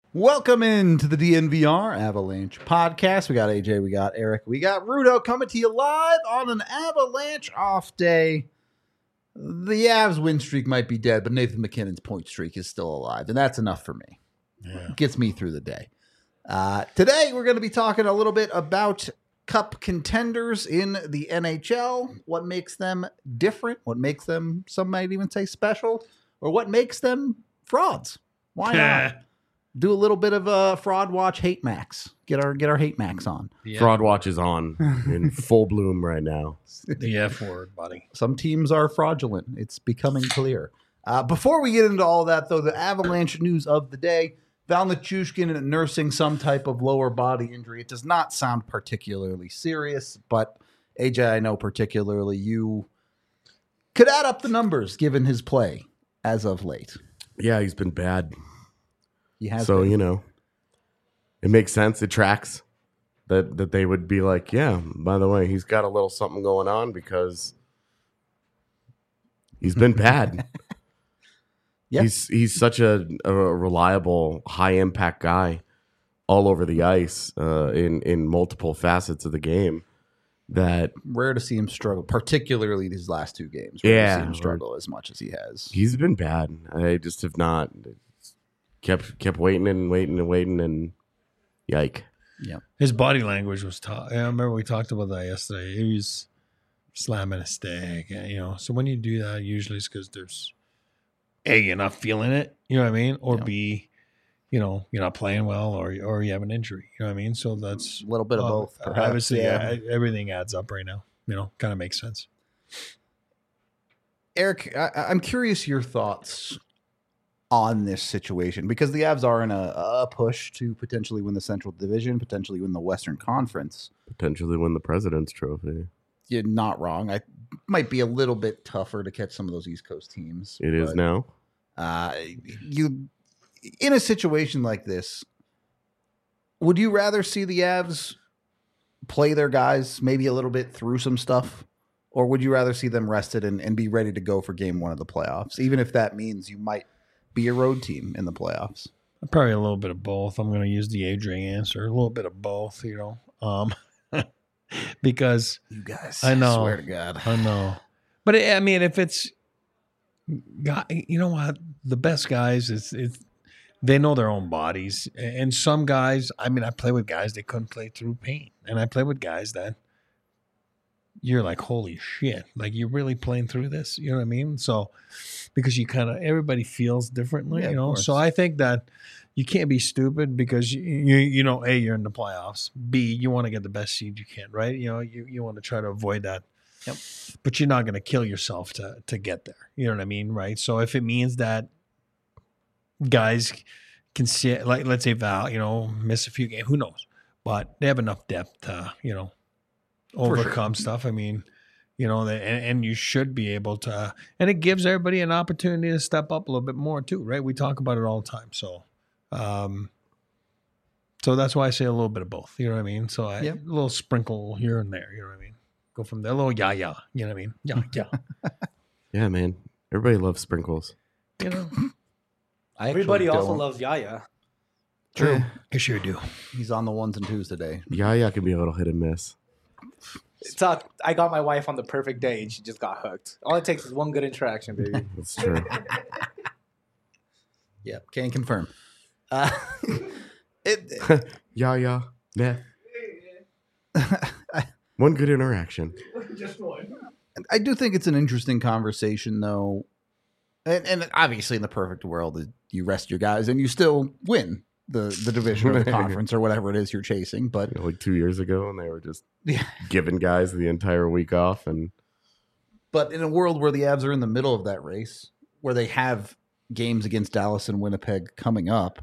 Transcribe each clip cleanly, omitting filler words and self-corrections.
Welcome into the DNVR Avalanche podcast. We got AJ, we got Eric, we got Rudo coming to you live on an Avalanche off day. The Avs win streak might be dead, but Nathan MacKinnon's point streak is still alive, and that's enough for me. Yeah. Gets me through the day. Today, we're going to be talking a little bit about cup contenders in the NHL, what makes them different, what makes them, some might even say special, or what makes them frauds. Why not? Do a little bit of a fraud watch hate max. Get our hate max on. Yeah. Fraud watch is on in full bloom right now. The F word, buddy. Some teams are fraudulent. It's becoming clear. Before we get into all that, though, the Avalanche news of the day: Val Nichushkin nursing some type of lower body injury. It does not sound particularly serious, but AJ, I know particularly you could add up the numbers given his play as of late. Yeah, he's been bad. So, you know, it makes sense. It tracks that they would be like, yeah, by the way, he's got a little something going on because he's been bad. Yeah. He's such a reliable, high impact guy all over the ice in multiple facets of the game. That rare to see him struggle, particularly these last two games. Rare to see him struggle as much as he has. He's been bad. I just have not. Kept waiting and yike. Yeah, his body language was tough. I remember we talked about that yesterday. He was slamming a stick, So when you do that, usually it's because there's A, you're not feeling it, you know what I mean, or B, you're not playing well, or you have an injury, you know what I mean. So that's a little bit of both. Perhaps. Obviously, everything adds up right now. Kind of makes sense. Eric, I'm curious your thoughts on this situation, because the Avs are in a push to potentially win the Central Division, potentially win the Western Conference, potentially win the President's Trophy. You're not wrong. I might be a little bit tougher to catch some of those East Coast teams. It is now. You in a situation like this, would you rather see the Avs play their guys maybe a little bit through some stuff, or would you rather see them rested and be ready to go for game one of the playoffs, even if that means you might be a road team in the playoffs? Probably a little bit of both. I'm going to use the AJ answer. A little bit of both, because you guys, I know, swear to God, I know. But if it's, you know what, the best guys they know their own bodies, and some guys. I play with guys that couldn't play through pain, and I play with guys that you're like, holy shit, like you're really playing through this, you know what I mean? So because everybody feels differently, so I think that you can't be stupid, because A, you're in the playoffs, B, you want to get the best seed you can, right? You want to try to avoid that. Yep. But you're not going to kill yourself to get there, you know what I mean, right? So if it means that guys can see, like, let's say Val, miss a few games, who knows, but they have enough depth to overcome stuff. And you should be able to, and it gives everybody an opportunity to step up a little bit more too, right? We talk about it all the time. So, so that's why I say a little bit of both, you know what I mean? So a little sprinkle here and there, you know what I mean? Go from there, a little you know what I mean? Yeah. Yeah, man. Everybody loves sprinkles. Everybody also loves Yaya. True. I sure do. He's on the ones and twos today. Yaya can be a little hit and miss. I got my wife on the perfect day, and she just got hooked. All it takes is one good interaction, baby. That's true. Yeah, can confirm. Yaya, meh. One good interaction. Just one. I do think it's an interesting conversation, though. And obviously, in the perfect world, you rest your guys and you still win the division or the conference or whatever it is you're chasing. But like 2 years ago, and they were just giving guys the entire week off. But in a world where the Avs are in the middle of that race, where they have games against Dallas and Winnipeg coming up.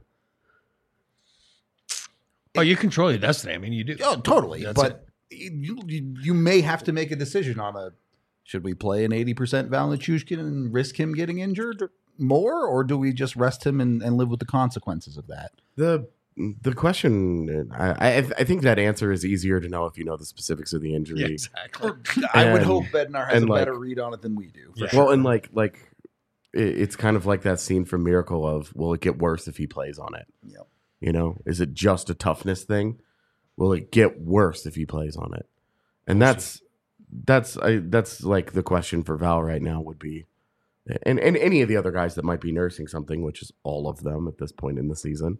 Oh, you control your destiny. You do. Oh, totally. But you may have to make a decision on should we play an 80% Val Nichushkin and risk him getting injured more, or do we just rest him and live with the consequences of that? The question, I think that answer is easier to know if you know the specifics of the injury. Yeah, exactly. I would hope Bednar has a better read on it than we do. Yeah. Well, and like it's kind of like that scene from Miracle of, will it get worse if he plays on it? Yep. You know, is it just a toughness thing? Will it get worse if he plays on it? And that's like the question for Val right now would be, and any of the other guys that might be nursing something, which is all of them at this point in the season.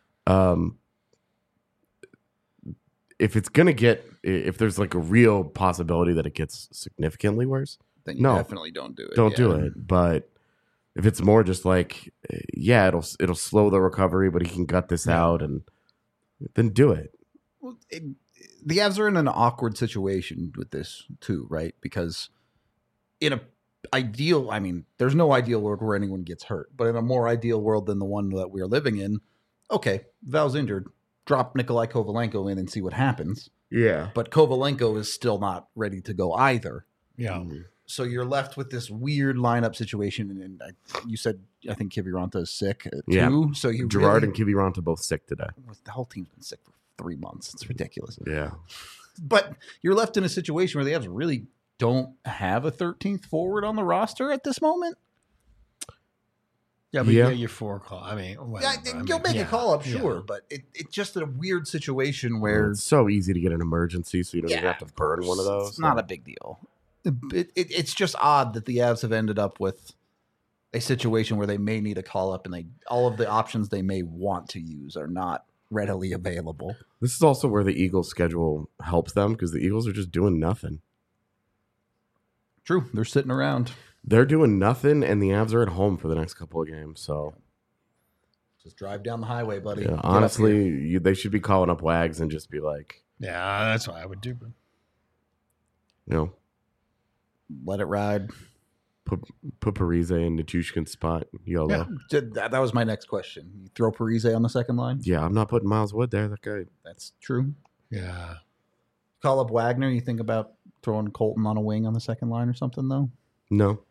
If it's gonna if there's like a real possibility that it gets significantly worse, Then you No. definitely don't do it. don't do it. But if it's more just like, yeah, it'll slow the recovery, but he can gut this out, and then do it. Well, the Avs are in an awkward situation with this too, right? Because in a ideal, I mean, there's no ideal world where anyone gets hurt, but in a more ideal world than the one that we are living in, okay, Val's injured, drop Nikolai Kovalenko in and see what happens. Yeah. But Kovalenko is still not ready to go either. Yeah. So you're left with this weird lineup situation. And you said, I think Kiviranta is sick too. Yeah. So you Gerard really, and Kiviranta both sick today. the whole team's been sick for 3 months. It's ridiculous. Yeah. But you're left in a situation where the Avs really don't have a 13th forward on the roster at this moment. Yeah, but Yeah. your 4 call. I mean, Yeah, whatever. you'll make a call up, yeah. sure, but it's just a weird situation where It's so easy to get an emergency, so you don't even Yeah, have to burn one of those. It's not a big deal. It's just odd that the Avs have ended up with a situation where they may need a call up, and all of the options they may want to use are not readily available. This is also where the Eagles' schedule helps them because the Eagles are just doing nothing. True, they're sitting around. They're doing nothing, and the Avs are at home for the next couple of games. So, Just drive down the highway, buddy. yeah, Get up here. honestly, they should be calling up Wags and just be like, Yeah, that's what I would do. But you know, Let it ride. put Parise in Nichushkin's spot. YOLO. That was my next question. You throw Parise on the second line? Yeah, I'm not putting Miles Wood there. That guy. That's true. yeah, Call up Wagner. You think about throwing Colton on a wing on the second line or something, though? No.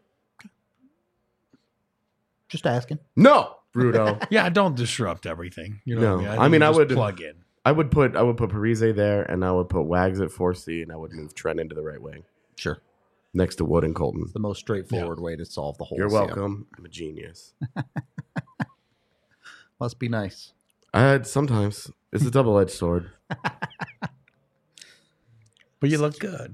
Just asking. No, Bruto. yeah. Don't disrupt everything. You know No. what I mean? I mean, you I just would- plug in. I would put Parise there, and I would put Wags at 4C, and I would move Trent into the right wing Sure. next to Wood and Colton. The most straightforward way to solve the whole. You're CM. welcome. I'm a genius. Must be nice. Sometimes it's a double-edged sword. But you look good.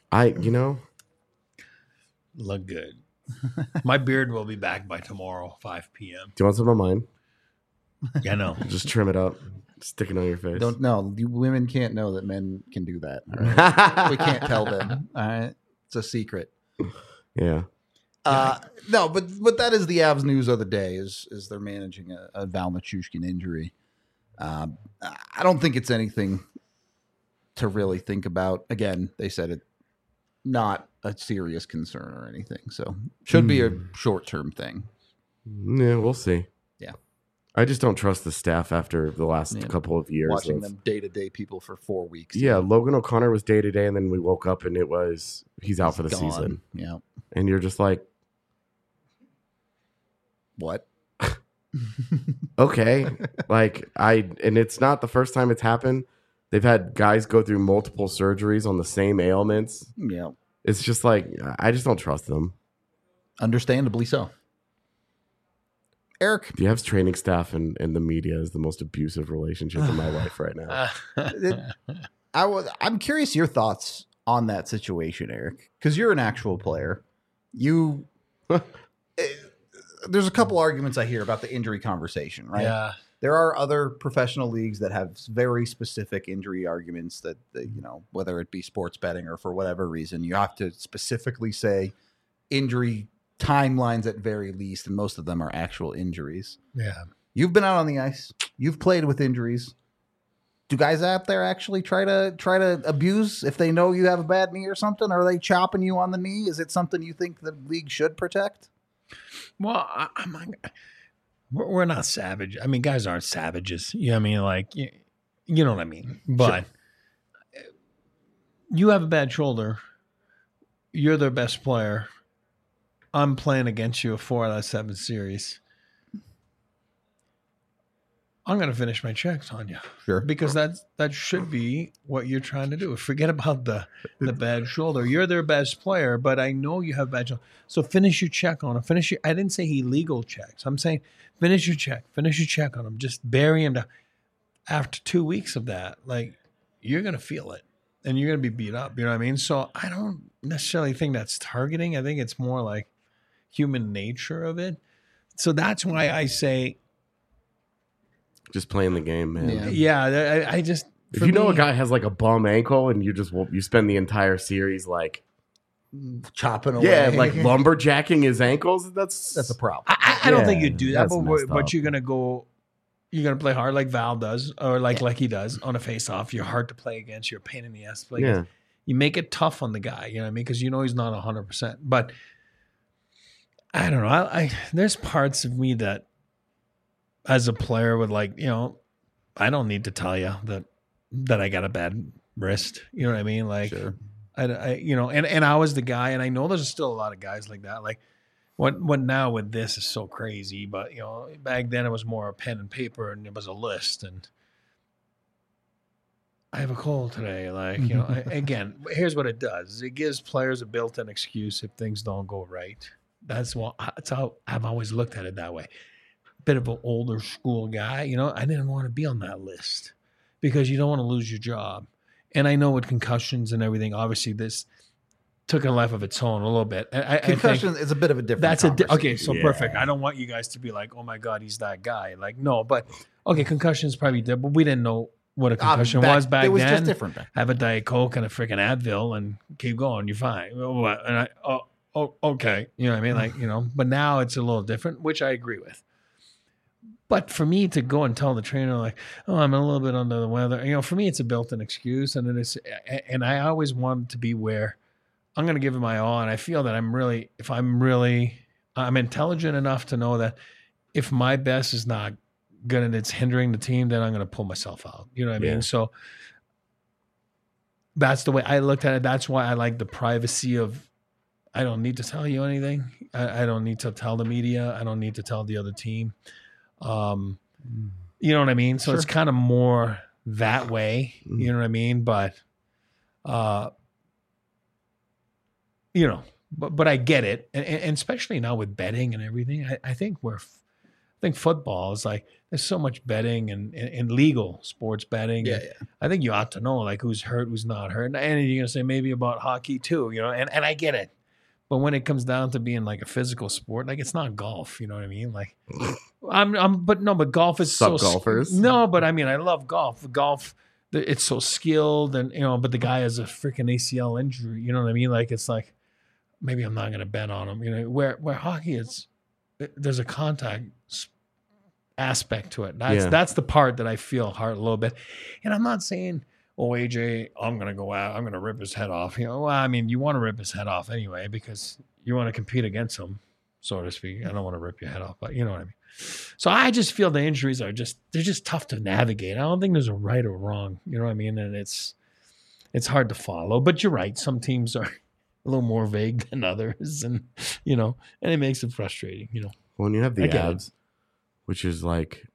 Look good. My beard will be back by tomorrow, 5 p.m. Do you want some of mine? Yeah, I know. Just trim it up, stick it on your face. Don't know. Women can't know that men can do that. All right? We can't tell them. All right, it's a secret. Yeah. No, but that is the Avs news of the day. Is they're managing a Val Nichushkin injury. I don't think it's anything to really think about. Again, they said it not a serious concern or anything, so should be a short term thing. Yeah, we'll see. Yeah. I just don't trust the staff after the last Yeah. couple of years. Watching of- them day to day people for 4 weeks. Yeah, Logan O'Connor was day to day, and then we woke up and it was he's out for the Gone. season. Yeah. And you're just like, What? okay. And it's not the first time it's happened. They've had guys go through multiple surgeries on the same ailments. Yeah. It's just like, I just don't trust them. Understandably so. Eric, The Avs training staff and the media is the most abusive relationship in my life right now. I'm curious your thoughts on that situation, Eric, because you're an actual player. There's a couple arguments I hear about the injury conversation, right? Yeah. There are other professional leagues that have very specific injury arguments that whether it be sports betting or for whatever reason, you have to specifically say injury timelines at very least, and most of them are actual injuries. Yeah. You've been out on the ice. You've played with injuries. Do guys out there actually try to abuse if they know you have a bad knee or something? Are they chopping you on the knee? Is it something you think the league should protect? Well, we're not savage. I mean, guys aren't savages. You know what I mean? Like, you know what I mean? But you have a bad shoulder. You're their best player. I'm playing against you a 4 out of 7 series. I'm going to finish my checks on you. Sure. Because that should be what you're trying to do. Forget about the bad shoulder. You're their best player, but I know you have bad shoulder. So finish your check on him. I didn't say illegal checks. I'm saying finish your check. Finish your check on him. Just bury him down. after 2 weeks of that, like you're going to feel it and you're going to be beat up. You know what I mean? So I don't necessarily think that's targeting. I think it's more like human nature of it. So that's why I say, Just playing the game, man. yeah, I just, If for you know me- a guy has like a bum ankle and you spend the entire series like Chopping away. yeah, like lumberjacking his ankles, that's That's a problem. I don't think Yeah, you do that, that's but, messed but up. you're gonna play hard like Val does, or like he does on a face-off. You're hard to play against. You're a pain in the ass to play yeah. against. You make it tough on the guy, you know what I mean? Because you know he's not 100%. But I don't know. I there's parts of me that, as a player, would like, you know, I don't need to tell you that I got a bad wrist. You know what I mean? Like, Sure. I you know, and I was the guy, and I know there's still a lot of guys like that. Like, what now with this is so crazy, but you know, back then it was more a pen and paper, and it was a list, and I have a cold today. Like, you know, again, here's what it does: it gives players a built-in excuse if things don't go right. That's how I've always looked at it that way. Bit of an older school guy, you know. I didn't want to be on that list because you don't want to lose your job. And I know with concussions and everything, obviously this took a life of its own a little bit. I Concussion think is a bit of a different. that's okay. So Yeah. perfect. I don't want you guys to be like, "Oh my God, he's that guy." Like, no, but okay, concussions probably did, but we didn't know what a concussion was back It was then. just different back. Have a Diet Coke and a freaking Advil and keep going. You're fine. And okay. You know what I mean? Like, you know, but now it's a little different, which I agree with. But for me to go and tell the trainer, like, oh, I'm a little bit under the weather, you know, for me, it's a built-in excuse. And it is, and I always wanted to be where I'm going to give it my all. And I feel that I'm intelligent enough to know that if my best is not good and it's hindering the team, then I'm going to pull myself out. You know what I Yeah. mean? So that's the way I looked at it. That's why I like the privacy of, I don't need to tell you anything. I don't need to tell the media. I don't need to tell the other team. You know what I mean? So it's kind of more that way. You know what I mean? But, you know, but I get it. And especially now with betting and everything, I think football is like, there's so much betting and legal sports betting. Yeah, And I think you ought to know like who's hurt, who's not hurt. And you're going to say maybe about hockey too, you know, and I get it. But when it comes down to being like a physical sport, like it's not golf, you know what I mean? Like but golf is Sup, so golfers? No, but I mean, I love golf. Golf, it's so skilled, and you know, but the guy has a freaking ACL injury. You know what I mean? Like it's like maybe I'm not going to bet on him. You know, where hockey is, there's a contact aspect to it. That's the part that I feel hard a little bit. And I'm not saying, oh, AJ, I'm going to go out, I'm going to rip his head off. You know, well, I mean, you want to rip his head off anyway because you want to compete against him, so to speak. I don't want to rip your head off, but you know what I mean. So I just feel the injuries they're just tough to navigate. I don't think there's a right or wrong, you know what I mean? And it's hard to follow, but you're right. Some teams are a little more vague than others, and you know, and it makes it frustrating, you know. When you have the I get it. abs, which is like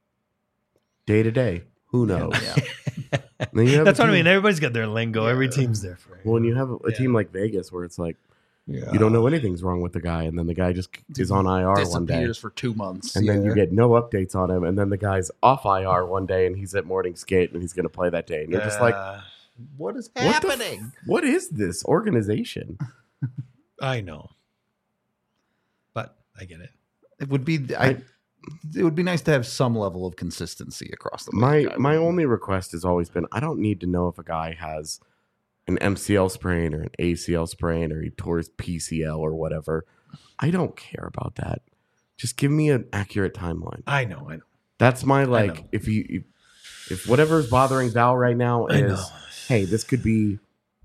day to day, who knows? Yeah. And then you have That's a what I team- mean. Everybody's got their lingo. Every team's different. When you have a Yeah. team like Vegas where it's like Yeah. you don't know anything's wrong with the guy, and then the guy just is on IR one day, Disappears for 2 months. and then you get no updates on him, and then the guy's off IR one day, and he's at morning skate, and he's going to play that day, and you're just like, what is what the f- happening? what is this organization? I know, but I get it. It would be it would be nice to have some level of consistency across the My league. only request has always been, I don't need to know if a guy has an MCL sprain or an ACL sprain or he tore his PCL or whatever. I don't care about that. Just give me an accurate timeline. I know. That's my know. if whatever's bothering Val right now I know. is, hey, this could be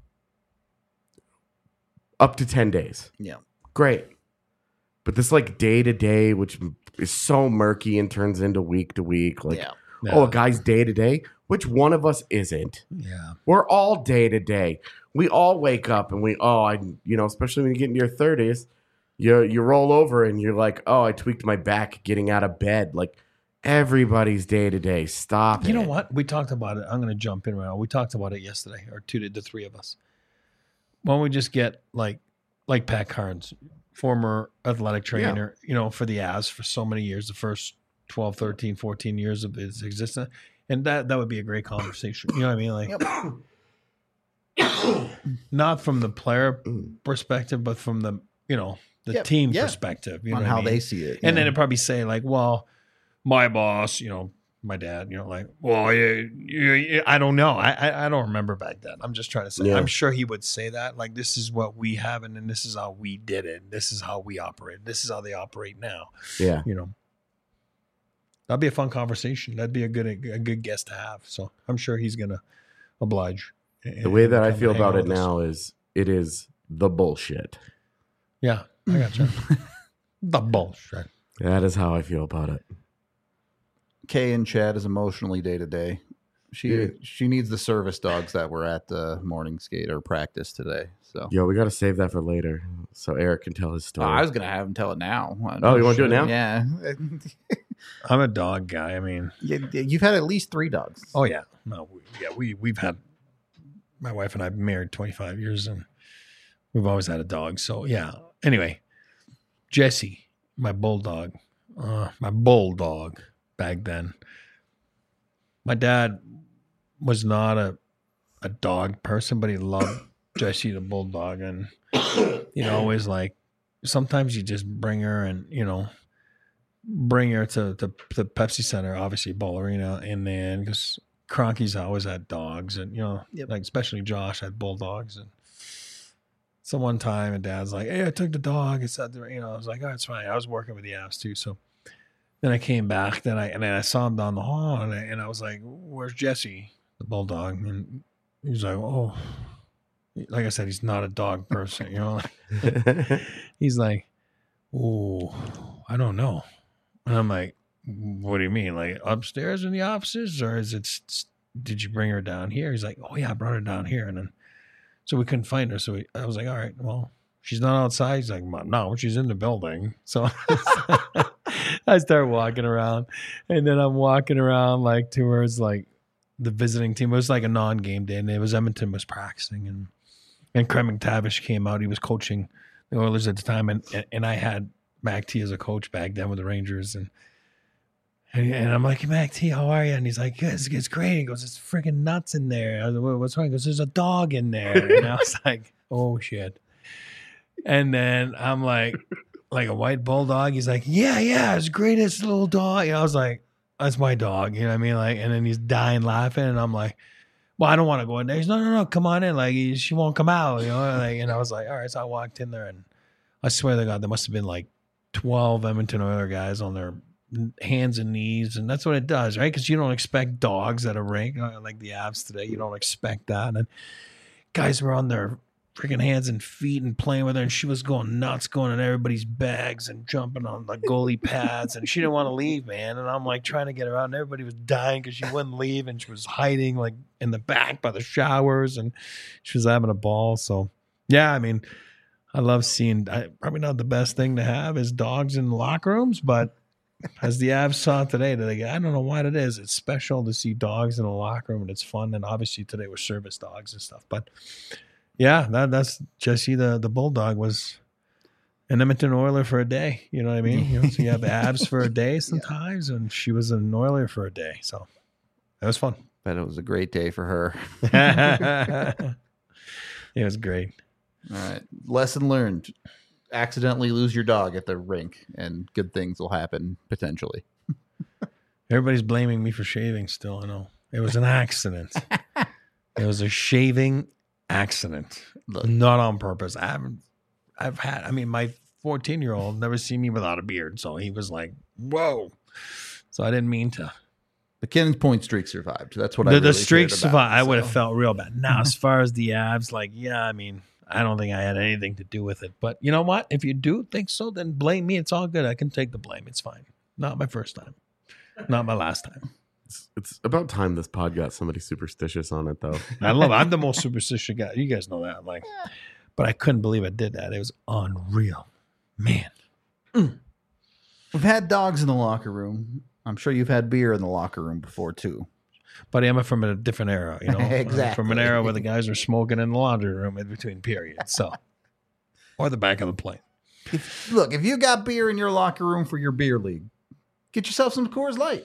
up to 10 days. Yeah. Great. But this like day to day, which is so murky and turns into week to week, like, Yeah. oh, a guy's day to day. Which one of us isn't? Yeah. We're all day to day. We all wake up and especially when you get into your 30s, you roll over and you're like, oh, I tweaked my back getting out of bed. Like everybody's day to day. Stop it. You know what? We talked about it. I'm going to jump in right now. We talked about it yesterday, or the three of us. Why don't we just get like Pat Carnes, former athletic trainer, you know, for the Avs for so many years, the first 12, 13, 14 years of his existence. And that would be a great conversation. You know what I mean? Like, not from the player perspective, but from the team perspective. You know on what how I mean? they see it. And then it'd probably say like, well, my boss, my dad, like, well, I don't know. I don't remember back then. I'm just trying to say, Yeah. I'm sure he would say that. Like, this is what we have, and then this is how we did it. This is how we operate. This is how they operate now. Yeah. That'd be a fun conversation. That'd be a good guest to have. So I'm sure he's going to oblige. The way that I come feel hang about out it with us. now is it is the bullshit. Yeah, I got you. The bullshit. That is how I feel about it. Kay and Chad is emotionally day to day. She needs the service dogs that were at the morning skate or practice today. So Yo, we got to save that for later so Eric can tell his story. I was gonna have him tell it now. Oh, you wanna do it now? Yeah. I'm a dog guy. I mean, You've had at least 3 dogs. oh yeah, no, we've had, my wife and I have been married 25 years, and we've always had a dog. So yeah. Anyway, Jesse, my bulldog back then. My dad was not a dog person, but he loved Jessie the bulldog, and always like, sometimes you just bring her and bring her to Pepsi Center, obviously Ball Arena, and then because Cronky's always had dogs, and like especially Josh had bulldogs. And so one time, and Dad's like, "Hey, I took the dog." It's out there, I was like, "Oh, it's fine." I was working with the Avs too, so then I came back. Then I saw him down the hall, and I was like, "Where's Jesse, the bulldog?" And he was like, "Oh." Like I said, he's not a dog person, He's like, "Oh, I don't know." And I'm like, "What do you mean? Like upstairs in the offices, or did you bring her down here?" He's like, "Oh yeah, I brought her down here." And then, so we couldn't find her. So I was like, "All right, well, she's not outside." He's like, "No, she's in the building." So I start walking around, and then I'm walking around like towards like the visiting team. It was like a non-game day, and it was Edmonton was practicing, and Craig McTavish came out. He was coaching the Oilers at the time, and I had Mac T as a coach back then with the Rangers, and I'm like, "Mac T, how are you?" And he's like, "Yeah, it's great." He goes, "It's freaking nuts in there." I was like, "What's wrong?" He goes, "There's a dog in there." And I was like, "Oh shit!" And then I'm like a white bulldog. He's like, "Yeah, it's great. It's a little dog." I was like, "That's my dog." You know what I mean? Like, and then he's dying laughing, and I'm like, "Well, I don't want to go in there." He's, no, come on in. Like, she won't come out, Like, and I was like, all right. So I walked in there, and I swear to God, there must have been like 12 Edmonton Oilers guys on their hands and knees, and that's what it does, right? Because you don't expect dogs at a rink like the Avs today. You don't expect that, and guys were on their freaking hands and feet and playing with her, and she was going nuts, going in everybody's bags and jumping on the goalie pads, and she didn't want to leave, man. And I'm like trying to get her out, and everybody was dying because she wouldn't leave, and she was hiding like in the back by the showers, and she was having a ball. So yeah, I mean, I love seeing. Probably not the best thing to have is dogs in locker rooms, but as the Avs saw today, I don't know what it is. It's special to see dogs in a locker room, and it's fun. And obviously today was service dogs and stuff, but. Yeah, that's Jesse the bulldog was an Edmonton Oiler for a day. You know what I mean? So you have Avs for a day sometimes, and she was an Oiler for a day. So that was fun. But it was a great day for her. It was great. All right. Lesson learned. Accidentally lose your dog at the rink, and good things will happen potentially. Everybody's blaming me for shaving still. I know. It was an accident. It was a shaving accident, not on purpose. I've had, my 14-year-old never seen me without a beard, so he was like, "Whoa!" So I didn't mean to. The Kennon's point streak survived. That's what the streak survived. I would have felt real bad. Now, as far as the Avs, I don't think I had anything to do with it. But you know what? If you do think so, then blame me. It's all good. I can take the blame. It's fine. Not my first time. Not my last time. It's about time this pod got somebody superstitious on it, though. I love it. I'm the most superstitious guy. You guys know that. But I couldn't believe I did that. It was unreal. Man. We've had dogs in the locker room. I'm sure you've had beer in the locker room before, too. But I'm from a different era, Exactly. From an era where the guys are smoking in the laundry room in between periods. So, or the back of the plane. If you got beer in your locker room for your beer league, get yourself some Coors Light.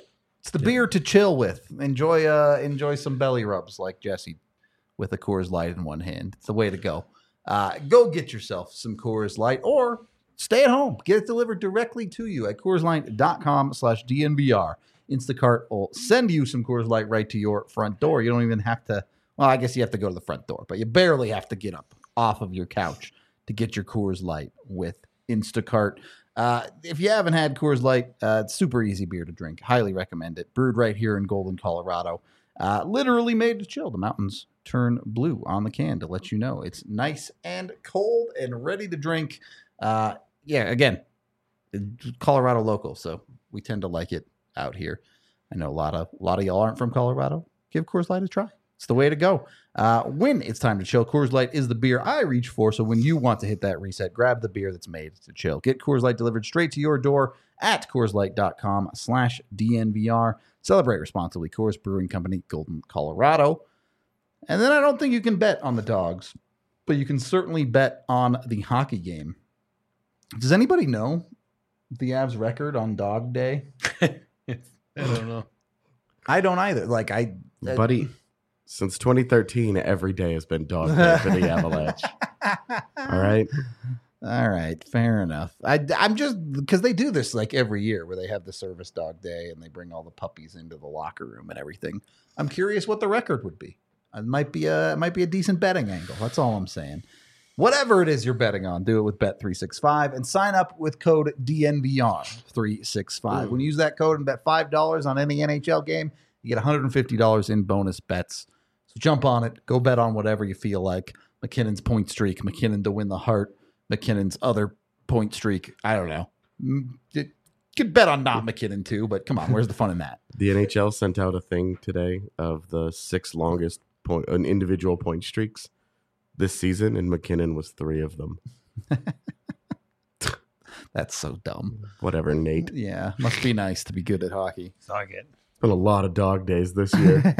It's the beer to chill with. Enjoy some belly rubs like Jesse with a Coors Light in one hand. It's the way to go. Go get yourself some Coors Light or stay at home. Get it delivered directly to you at CoorsLight.com/DNVR. Instacart will send you some Coors Light right to your front door. You don't even have to, well, I guess you have to go to the front door, but you barely have to get up off of your couch to get your Coors Light with Instacart. If you haven't had Coors Light, it's super easy beer to drink. Highly recommend it. Brewed right here in Golden, Colorado. Literally made to chill. The mountains turn blue on the can to let you know it's nice and cold and ready to drink. Again, Colorado local, so we tend to like it out here. I know a lot of y'all aren't from Colorado. Give Coors Light a try. It's the way to go. When it's time to chill, Coors Light is the beer I reach for. So when you want to hit that reset, grab the beer that's made to chill. Get Coors Light delivered straight to your door at CoorsLight.com/DNVR. Celebrate responsibly. Coors Brewing Company, Golden, Colorado. And then I don't think you can bet on the Dogs, but you can certainly bet on the hockey game. Does anybody know the Avs record on Dog Day? I don't know. I don't either. Buddy, since 2013, every day has been dog day for the Avalanche. All right. All right, fair enough. I'm just because they do this like every year where they have the service dog day and they bring all the puppies into the locker room and everything. I'm curious what the record would be. It might be a decent betting angle. That's all I'm saying. Whatever it is you're betting on, do it with Bet365 and sign up with code DNVR365. When you use that code and bet $5 on any NHL game, you get $150 in bonus bets. So jump on it. Go bet on whatever you feel like. McKinnon's point streak, McKinnon to win the Hart, McKinnon's other point streak. I don't know. You could bet on not McKinnon too, but come on, where's the fun in that? The NHL sent out a thing today of the 6 longest individual point streaks this season, and McKinnon was 3 of them. That's so dumb. Whatever, Nate. Yeah, must be nice to be good at hockey. Dog it. Been a lot of dog days this year.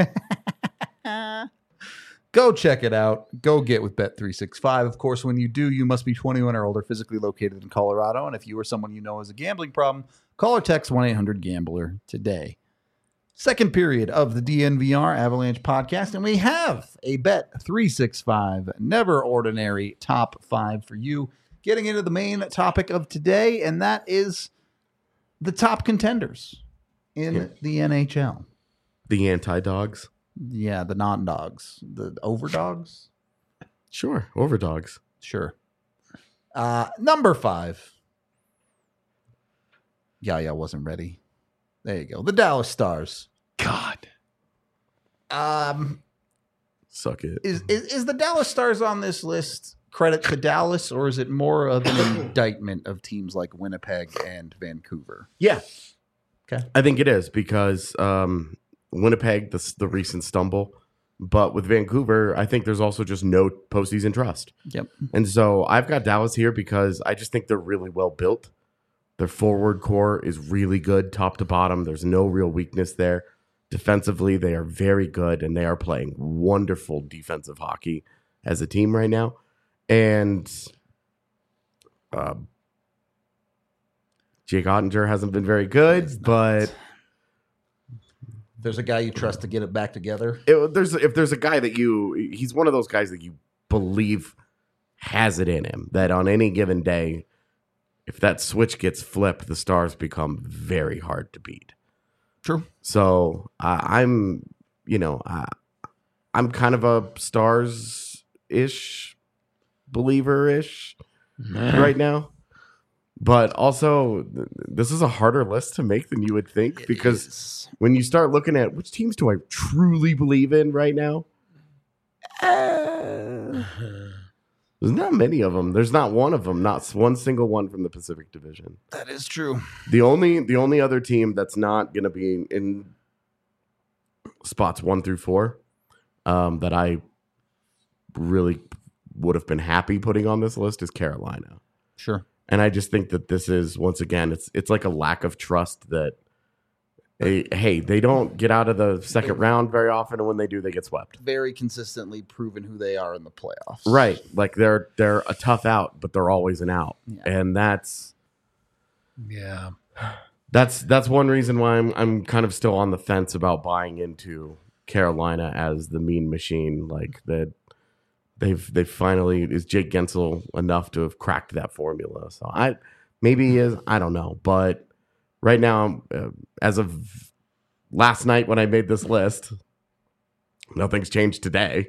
Go check it out. Go get with Bet365. Of course, when you do, you must be 21 or older, physically located in Colorado. And if you or someone you know has a gambling problem, call or text 1-800-GAMBLER today. Second period of the DNVR Avalanche podcast, and we have a Bet365 Never Ordinary Top 5 for you. Getting into the main topic of today, and that is the top contenders in the NHL. The anti-dogs? Yeah, the non-dogs. The overdogs? Sure, overdogs. Sure. Number 5. Yaya wasn't ready. There you go. The Dallas Stars. God. Suck it. Is the Dallas Stars on this list credit to Dallas, or is it more of an indictment of teams like Winnipeg and Vancouver? Yeah. Okay. I think it is because Winnipeg, the recent stumble, but with Vancouver, I think there's also just no postseason trust. Yep. And so I've got Dallas here because I just think they're really well built. Their forward core is really good, top to bottom. There's no real weakness there. Defensively, they are very good, and they are playing wonderful defensive hockey as a team right now. And Jake Ottinger hasn't been very good, but there's a guy you trust to get it back together. If there's a guy that he's one of those guys that you believe has it in him, that on any given day, if that switch gets flipped, the Stars become very hard to beat. True. So I'm kind of a Stars-ish believer-ish right now. But also, this is a harder list to make than you would think because when you start looking at which teams do I truly believe in right now, there's not many of them. There's not one of them, not one single one from the Pacific Division. That is true. The only other team that's not going to be in spots 1 through 4 that I really would have been happy putting on this list is Carolina. Sure. And I just think that this is, once again, it's like a lack of trust that, hey, they don't get out of the second round very often, and when they do, they get swept. Very consistently proven who they are in the playoffs. Right. Like they're a tough out, but they're always an out. Yeah. And that's... Yeah. That's one reason why I'm kind of still on the fence about buying into Carolina as the mean machine. Like that, they've finally, is Jake Gensel enough to have cracked that formula? So maybe he is. I don't know, but right now, as of last night when I made this list, nothing's changed today.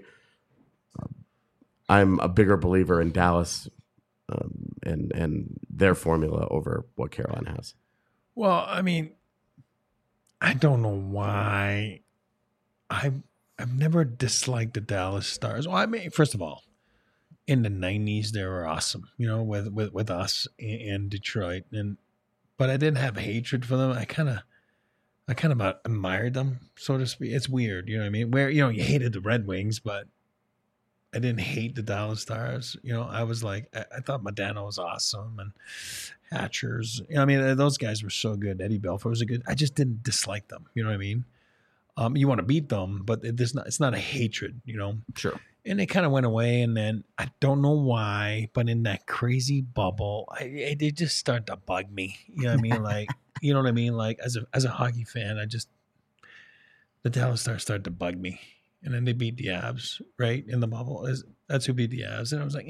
I'm a bigger believer in Dallas and their formula over what Carolina has. Well, I mean, I don't know why. I've never disliked the Dallas Stars. Well, I mean, first of all, in the '90s they were awesome, with us in Detroit, but I didn't have hatred for them. I kind of admired them, so to speak. It's weird, you know what I mean? Where you hated the Red Wings, but I didn't hate the Dallas Stars. I was like, I thought Modano was awesome and Hatchers. I mean, those guys were so good. Eddie Belfour was a good. I just didn't dislike them. You know what I mean? You want to beat them, but it's not a hatred. Sure. And it kind of went away, and then I don't know why, but in that crazy bubble, they just start to bug me. You know what I mean? Like, you know what I mean? Like as a hockey fan, the Dallas Stars started to bug me. And then they beat the Avs, right, in the bubble. That's who beat the Avs. And I was like,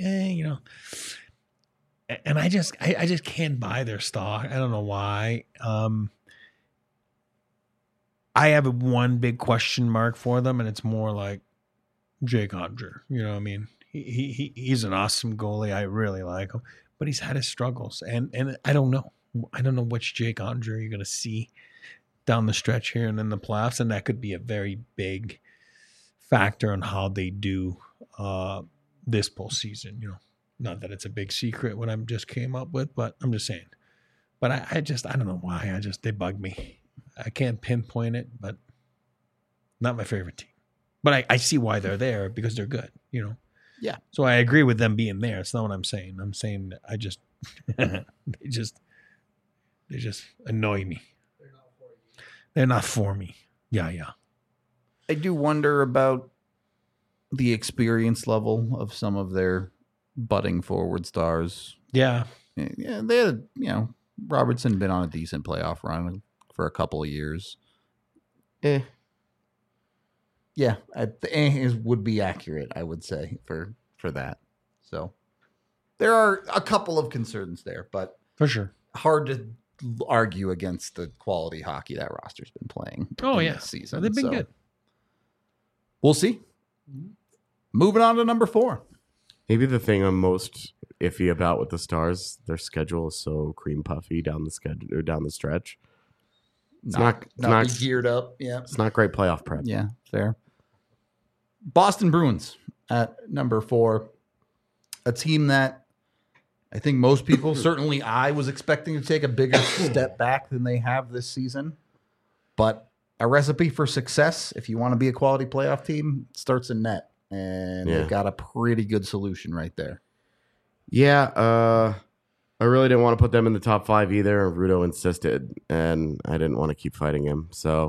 And I just can't buy their stock. I don't know why. I have one big question mark for them, and it's more like Jake Oettinger. You know what I mean? He's an awesome goalie. I really like him. But he's had his struggles. And I don't know. I don't know which Jake Oettinger you're going to see down the stretch here and in the playoffs. And that could be a very big factor on how they do this postseason. Not that it's a big secret what I just came up with, but I'm just saying. But I don't know why. They bug me. I can't pinpoint it, but not my favorite team. But I see why they're there, because they're good. Yeah. So I agree with them being there. It's not what I'm saying. I'm saying I just they just annoy me. They're not for me. Yeah. I do wonder about the experience level of some of their budding forward stars. Yeah. Yeah, they had, Robertson been on a decent playoff run for a couple of years. Yeah, would be accurate, I would say, for that. So there are a couple of concerns there, but for sure, hard to argue against the quality hockey that roster's been playing. This season. They've been good. We'll see. Moving on to number 4. Maybe the thing I'm most iffy about with the Stars, their schedule is so cream puffy down the stretch. It's not geared up. Yeah, it's not great playoff prep. Yeah, fair. Boston Bruins at number 4, a team that I think most people, certainly I, was expecting to take a bigger step back than they have this season. But a recipe for success, if you want to be a quality playoff team, starts in net. And they've got a pretty good solution right there. Yeah, I really didn't want to put them in the top 5 either. Rudo insisted, and I didn't want to keep fighting him. So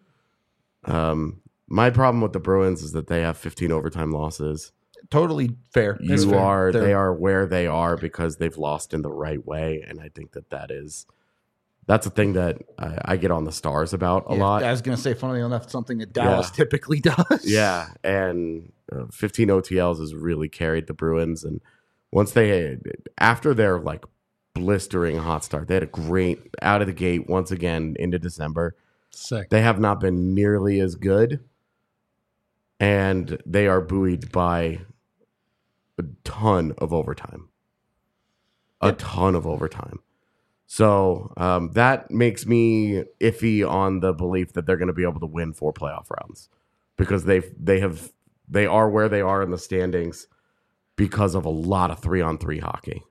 my problem with the Bruins is that they have 15 overtime losses. Totally fair. They are where they are because they've lost in the right way, and I think that's a thing that I get on the Stars about a lot. I was going to say, funnily enough, something that Dallas typically does. Yeah, and 15 OTLs has really carried the Bruins. And after their like blistering hot start, they had a great out of the gate once again into December. Sick. They have not been nearly as good, and they are buoyed by a ton of overtime. So that makes me iffy on the belief that they're going to be able to win 4 playoff rounds, because they are where they are in the standings because of a lot of 3-on-3 hockey.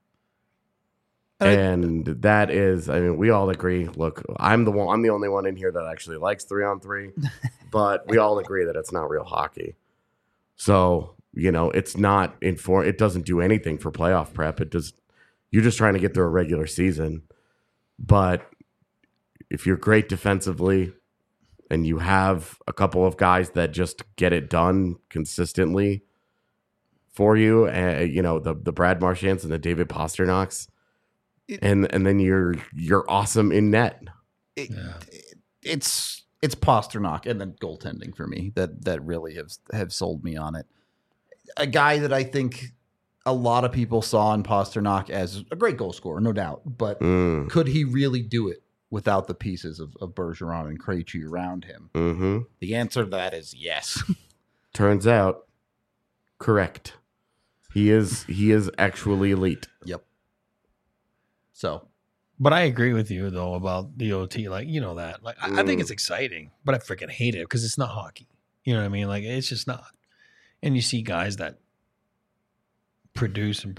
And that is, I mean, we all agree. Look, I'm the only one in here that actually likes 3-on-3, but we all agree that it's not real hockey. So, it's not it doesn't do anything for playoff prep. You're just trying to get through a regular season. But if you're great defensively and you have a couple of guys that just get it done consistently for you, the Brad Marchands and the David Pasternaks, and then you're awesome in net. it's Pasternak and then goaltending for me that really have sold me on it. A guy that I think a lot of people saw in Pasternak as a great goal scorer, no doubt, but could he really do it without the pieces of Bergeron and Krejci around him? Mm-hmm. The answer to that is yes. Turns out, correct. He is actually elite. Yep. So, but I agree with you though about the OT. Like, you know that. Like, I think it's exciting, but I freaking hate it because it's not hockey. You know what I mean? Like, it's just not. And you see guys that produce and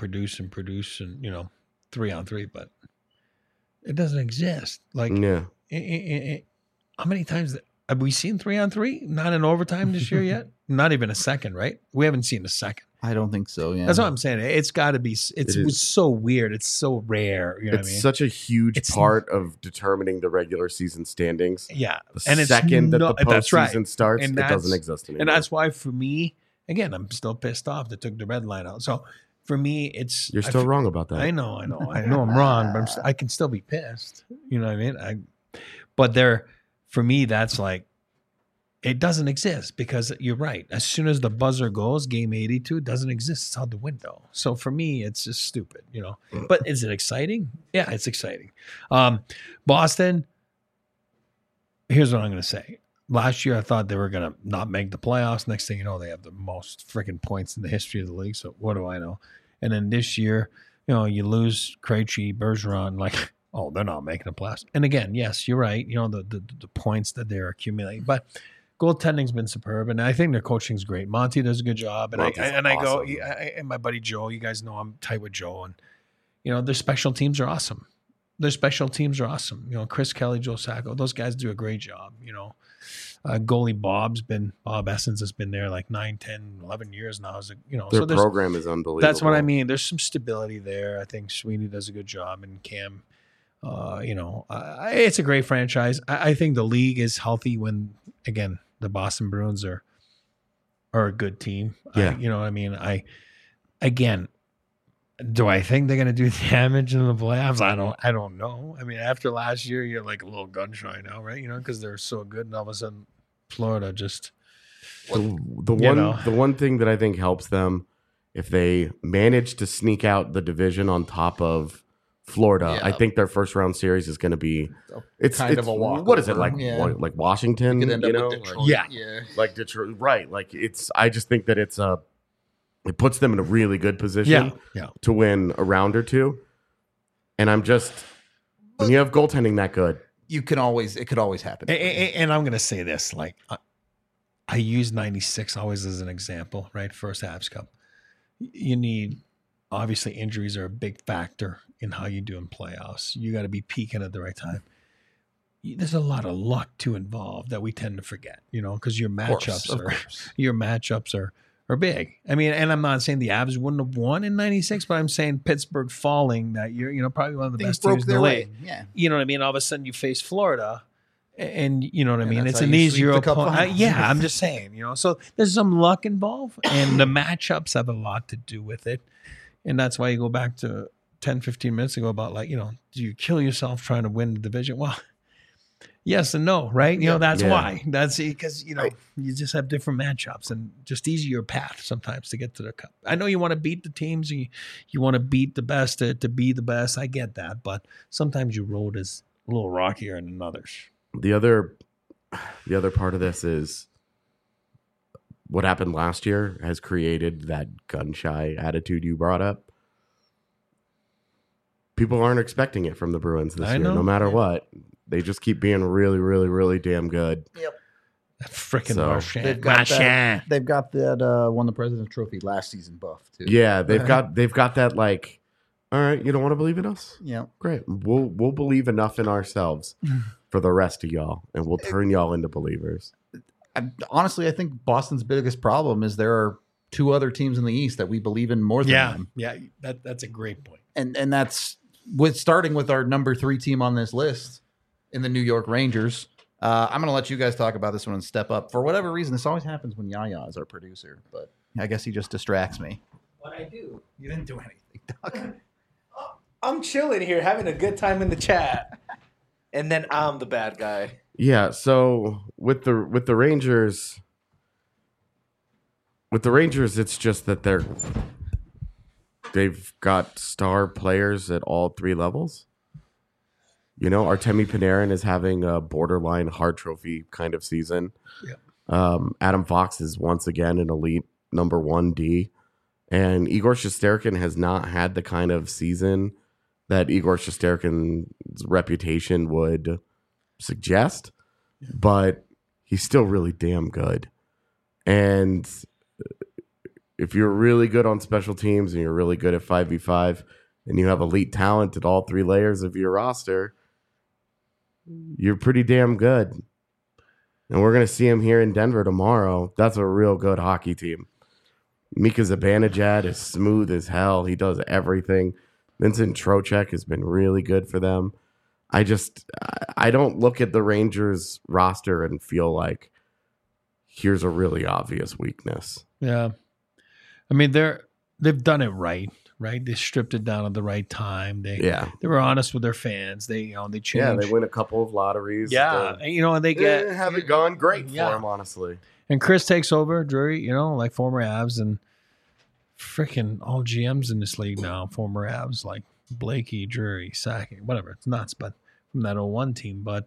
3-on-3, but it doesn't exist. Like, Yeah. How many times have we seen 3-on-3? Not in overtime this year yet. Not even a second, right? We haven't seen a second. I don't think so. Yeah, That's what I'm saying. It's got to be. It's so weird. It's so rare. You know It's such a huge part of determining the regular season standings. Yeah, The and second that the that's postseason right. starts, And it doesn't exist anymore. And that's why, for me, again, I'm still pissed off they took the red line out. So for me, You're still wrong about that. I know I'm wrong, but I can still be pissed. You know what I mean? But for me, that's like, it doesn't exist because you're right. As soon as the buzzer goes, game 82 doesn't exist. It's out the window. So for me, it's just stupid, you know. But is it exciting? Yeah, it's exciting. Boston, here's what I'm going to say. Last year, I thought they were going to not make the playoffs. Next thing you know, they have the most freaking points in the history of the league. So what do I know? And then this year, you know, you lose Krejci, Bergeron, like, oh, they're not making the playoffs. And again, yes, you're right. You know, the points that they're accumulating. But goaltending's been superb, and I think their coaching's great. Monty does a good job, and and my buddy Joe, you guys know I'm tight with Joe, and you know their special teams are awesome. You know, Chris Kelly, Joe Sacco, those guys do a great job. You know, goalie Bob Essence has been there like 9, 10, 11 years now. Their program is unbelievable. That's what I mean. There's some stability there. I think Sweeney does a good job, and Cam. It's a great franchise. I think the league is healthy when, again, the Boston Bruins are a good team. Yeah. You know what I mean? Do I think they're going to do damage in the playoffs? I don't know. I mean, after last year, you're like a little gun shy now, right? You know, because they're so good, and all of a sudden, Florida just the one thing that I think helps them, if they manage to sneak out the division on top of Florida, I think their first round series is going to be it's kind of a walk. What is it like? Like Washington, You could end up with Detroit. Yeah. like Detroit, right? Like I just think that it puts them in a really good position to win a round or two. And when you have goaltending that good, it could always happen. And I'm going to say this, like I use 96 always as an example, right? First Habs Cup. You need, obviously injuries are a big factor in how you do in playoffs. You got to be peaking at the right time. There's a lot of luck to involve that we tend to forget, you know, because your matchups are big. I mean, and I'm not saying the Avs wouldn't have won in 96, but I'm saying Pittsburgh falling that year, you know, probably one of the best teams in the league. Yeah. You know what I mean? All of a sudden you face Florida and you know what I mean? It's how an you easier sweep the cup opponent. finals. Yeah, I'm just saying, you know, so there's some luck involved and the matchups have a lot to do with it. And that's why you go back to 10, 15 minutes ago about like, you know, do you kill yourself trying to win the division? Well, yes and no, right? You know, that's why. That's because, you know, you just have different matchups and just easier path sometimes to get to the cup. I know you want to beat the teams. You want to beat the best to be the best. I get that. But sometimes your road is a little rockier than others. The other part of this is what happened last year has created that gun-shy attitude you brought up. People aren't expecting it from the Bruins this year, no matter what. They just keep being really, really, really damn good. Yep. Freaking So- Marchand. They've got that won the President's Trophy last season buff too. Yeah, they've got that like, all right, you don't want to believe in us? Yeah. Great. We'll believe enough in ourselves for the rest of y'all, and we'll turn y'all into believers. Honestly, I think Boston's biggest problem is there are two other teams in the East that we believe in more than them. Yeah, that's a great point. And that's starting with our number 3 team on this list in the New York Rangers. I'm going to let you guys talk about this one and step up. For whatever reason, this always happens when Yaya is our producer, but I guess he just distracts me. What I do? You didn't do anything, Doc. I'm chilling here, having a good time in the chat. And then I'm the bad guy. Yeah, so with the Rangers, it's just that they've got star players at all three levels. You know, Artemi Panarin is having a borderline Hart Trophy kind of season. Yeah. Adam Fox is once again an elite number 1D, and Igor Shesterkin has not had the kind of season that Igor Shesterkin's reputation would suggest, but he's still really damn good. And if you're really good on special teams and you're really good at 5v5 and you have elite talent at all three layers of your roster, you're pretty damn good. And we're going to see him here in Denver tomorrow. That's a real good hockey team. Mika Zibanejad is smooth as hell. He does everything. Vincent Trocheck has been really good for them. I don't look at the Rangers roster and feel like here's a really obvious weakness. Yeah. I mean, they've done it right? They stripped it down at the right time. They were honest with their fans. They changed. Yeah, they win a couple of lotteries. Yeah, and they get haven't gone great for them, honestly. And Chris takes over, Drury, like former Avs, and freaking all GMs in this league now, former Avs, like Blakey, Drury, Sakic, whatever. It's nuts, but from that 01 team. But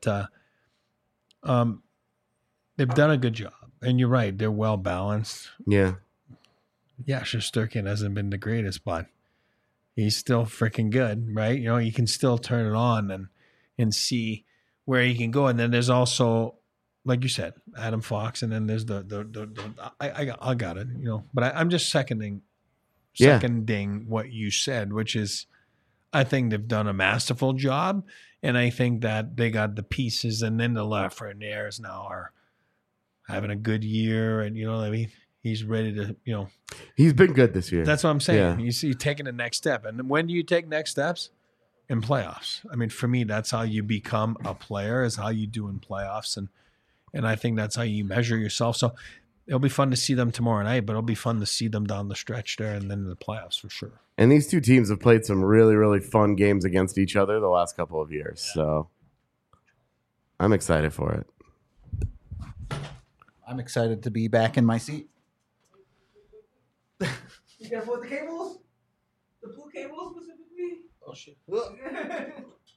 they've done a good job. And you're right, they're well balanced. Yeah. Yeah, Shesterkin hasn't been the greatest, but he's still freaking good, right? You can still turn it on and see where he can go. And then there's also, like you said, Adam Fox, and then there's I got it, But I'm just seconding what you said, which is I think they've done a masterful job, and I think that they got the pieces, and then the Lafreniere now are having a good year, and you know what I mean. He's ready to, He's been good this year. That's what I'm saying. Yeah. You see, taking the next step. And when do you take next steps? In playoffs. I mean, for me, that's how you become a player, is how you do in playoffs. And I think that's how you measure yourself. So it'll be fun to see them tomorrow night, but it'll be fun to see them down the stretch there and then in the playoffs for sure. And these two teams have played some really, really fun games against each other the last couple of years. Yeah. So I'm excited for it. I'm excited to be back in my seat. You careful with the cables? The blue cables specifically? Oh, shit. There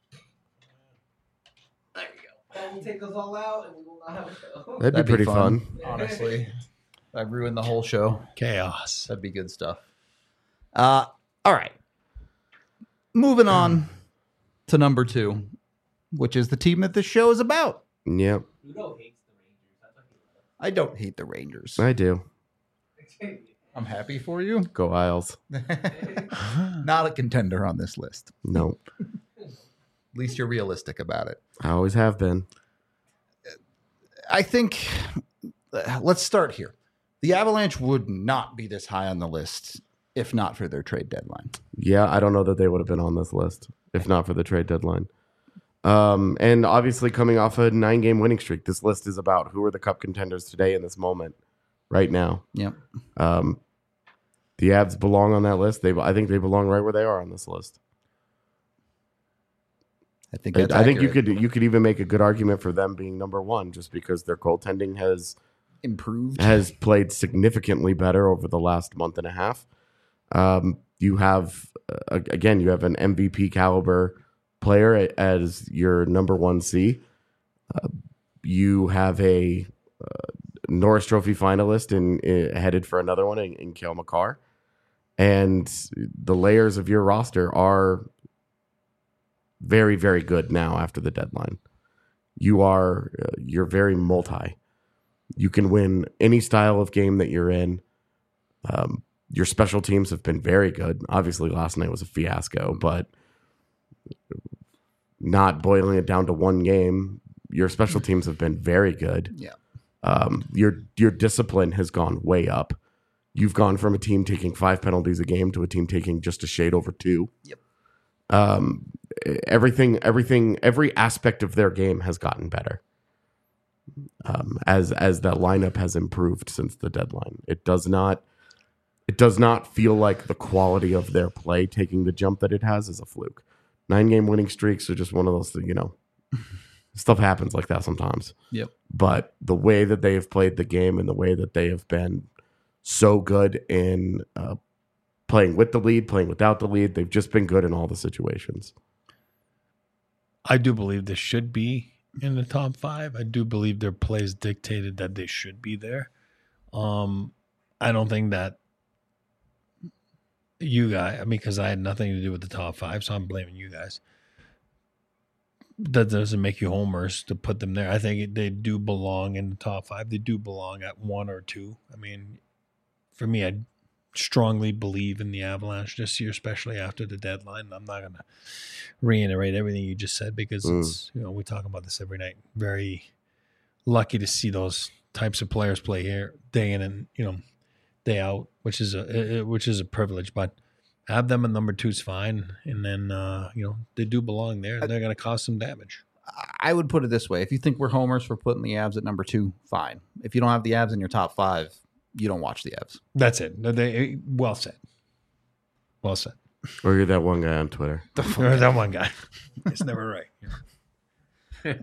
you go. And we'll take those all out and we will not have a show. That'd be pretty fun. Honestly. I ruined the whole show. Chaos. That'd be good stuff. All right. Moving on to number 2, which is the team that this show is about. Yep. Ludo hates the Rangers. That's what he loves. I don't hate the Rangers. I do. I'm happy for you. Go Isles. Not a contender on this list. Nope. At least you're realistic about it. I always have been. I think, let's start here. The Avalanche would not be this high on the list if not for their trade deadline. Yeah, I don't know that they would have been on this list if not for the trade deadline. And obviously coming off a 9-game winning streak, this list is about who are the cup contenders today in this moment, right now. Yep. The Avs belong on that list. I think they belong right where they are on this list. I think that's I think accurate. you could even make a good argument for them being number 1 just because their goaltending has improved, has played significantly better over the last month and a half. You have again, you have an MVP caliber player as your number 1C. You have a Norris Trophy finalist headed for another one in Cale Makar. And the layers of your roster are very, very good now after the deadline. You're very multi. You can win any style of game that you're in. Your special teams have been very good. Obviously, last night was a fiasco, but not boiling it down to one game, your special teams have been very good. Yeah. Your discipline has gone way up. You've gone from a team taking 5 penalties a game to a team taking just a shade over 2. Yep. Every aspect of their game has gotten better. As that lineup has improved since the deadline. It does not feel like the quality of their play taking the jump that it has is a fluke. 9-game winning streaks are just one of those, Stuff happens like that sometimes. Yep. But the way that they have played the game and the way that they have been so good in playing with the lead, playing without the lead, they've just been good in all the situations. I do believe they should be in the top 5. I do believe their plays dictated that they should be there. I don't think that you guys, I mean, because I had nothing to do with the top 5, so I'm blaming you guys. That doesn't make you homers to put them there. I think they do belong in the top 5. They do belong at 1 or 2. I mean, for me, I strongly believe in the Avalanche this year, especially after the deadline. I'm not going to reiterate everything you just said because it's, we talk about this every night. Very lucky to see those types of players play here day in and, day out, which is a privilege, but have them at number 2 is fine. And then, they do belong there. They're going to cause some damage. I would put it this way. If you think we're homers for putting the Avs at number 2, fine. If you don't have the Avs in your top 5, you don't watch the Avs. That's it. Well said. Well said. Or you're that one guy on Twitter. Or that one guy. It's never right.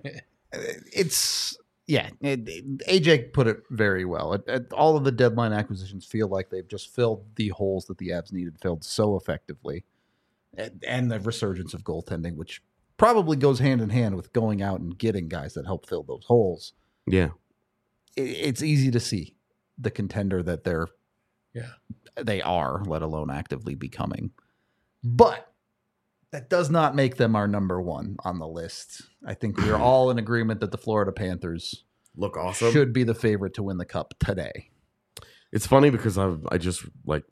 AJ put it very well. All of the deadline acquisitions feel like they've just filled the holes that the Avs needed filled so effectively. And the resurgence of goaltending, which probably goes hand in hand with going out and getting guys that help fill those holes. Yeah. It's easy to see the contender that they are, let alone actively becoming. But that does not make them our number 1 on the list. I think we are all in agreement that the Florida Panthers look awesome. Should be the favorite to win the cup today. It's funny because I just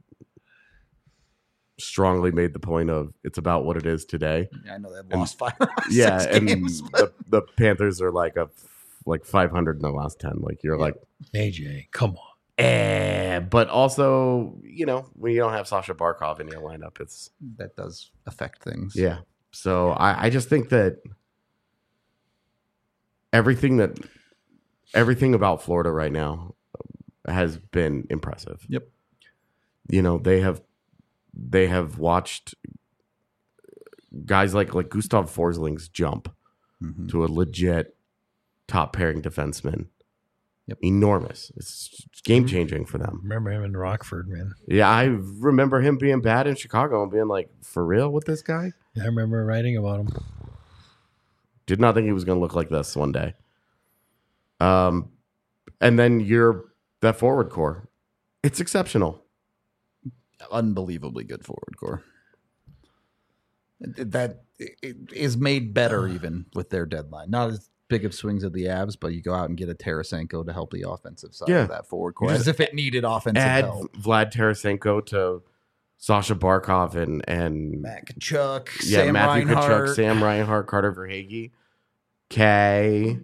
strongly made the point of it's about what it is today. Yeah, I know they've lost 5 6 games. And the Panthers are like 500 in the last 10. Like you're like AJ, come on. But also, when you don't have Sasha Barkov in your lineup, that does affect things. Yeah. So I just think that everything about Florida right now has been impressive. Yep. They have watched guys like Gustav Forsling's jump to a legit top pairing defenseman. Yep. Enormous. It's game changing for them. Remember him in Rockford, man. Yeah, I remember him being bad in Chicago and being like, for real with this guy? Yeah, I remember writing about him. Did not think he was going to look like this one day. And then that forward core. It's exceptional. Unbelievably good forward core. That is made better even with their deadline. Not as big of swings of the Avs, but you go out and get a Tarasenko to help the offensive side of that forward core, as if it needed offensive help. Vlad Tarasenko to Sasha Barkov and Matt Tkachuk, Matthew Reinhart. Tkachuk, Sam Reinhart, Carter Verhaeghe, Kay.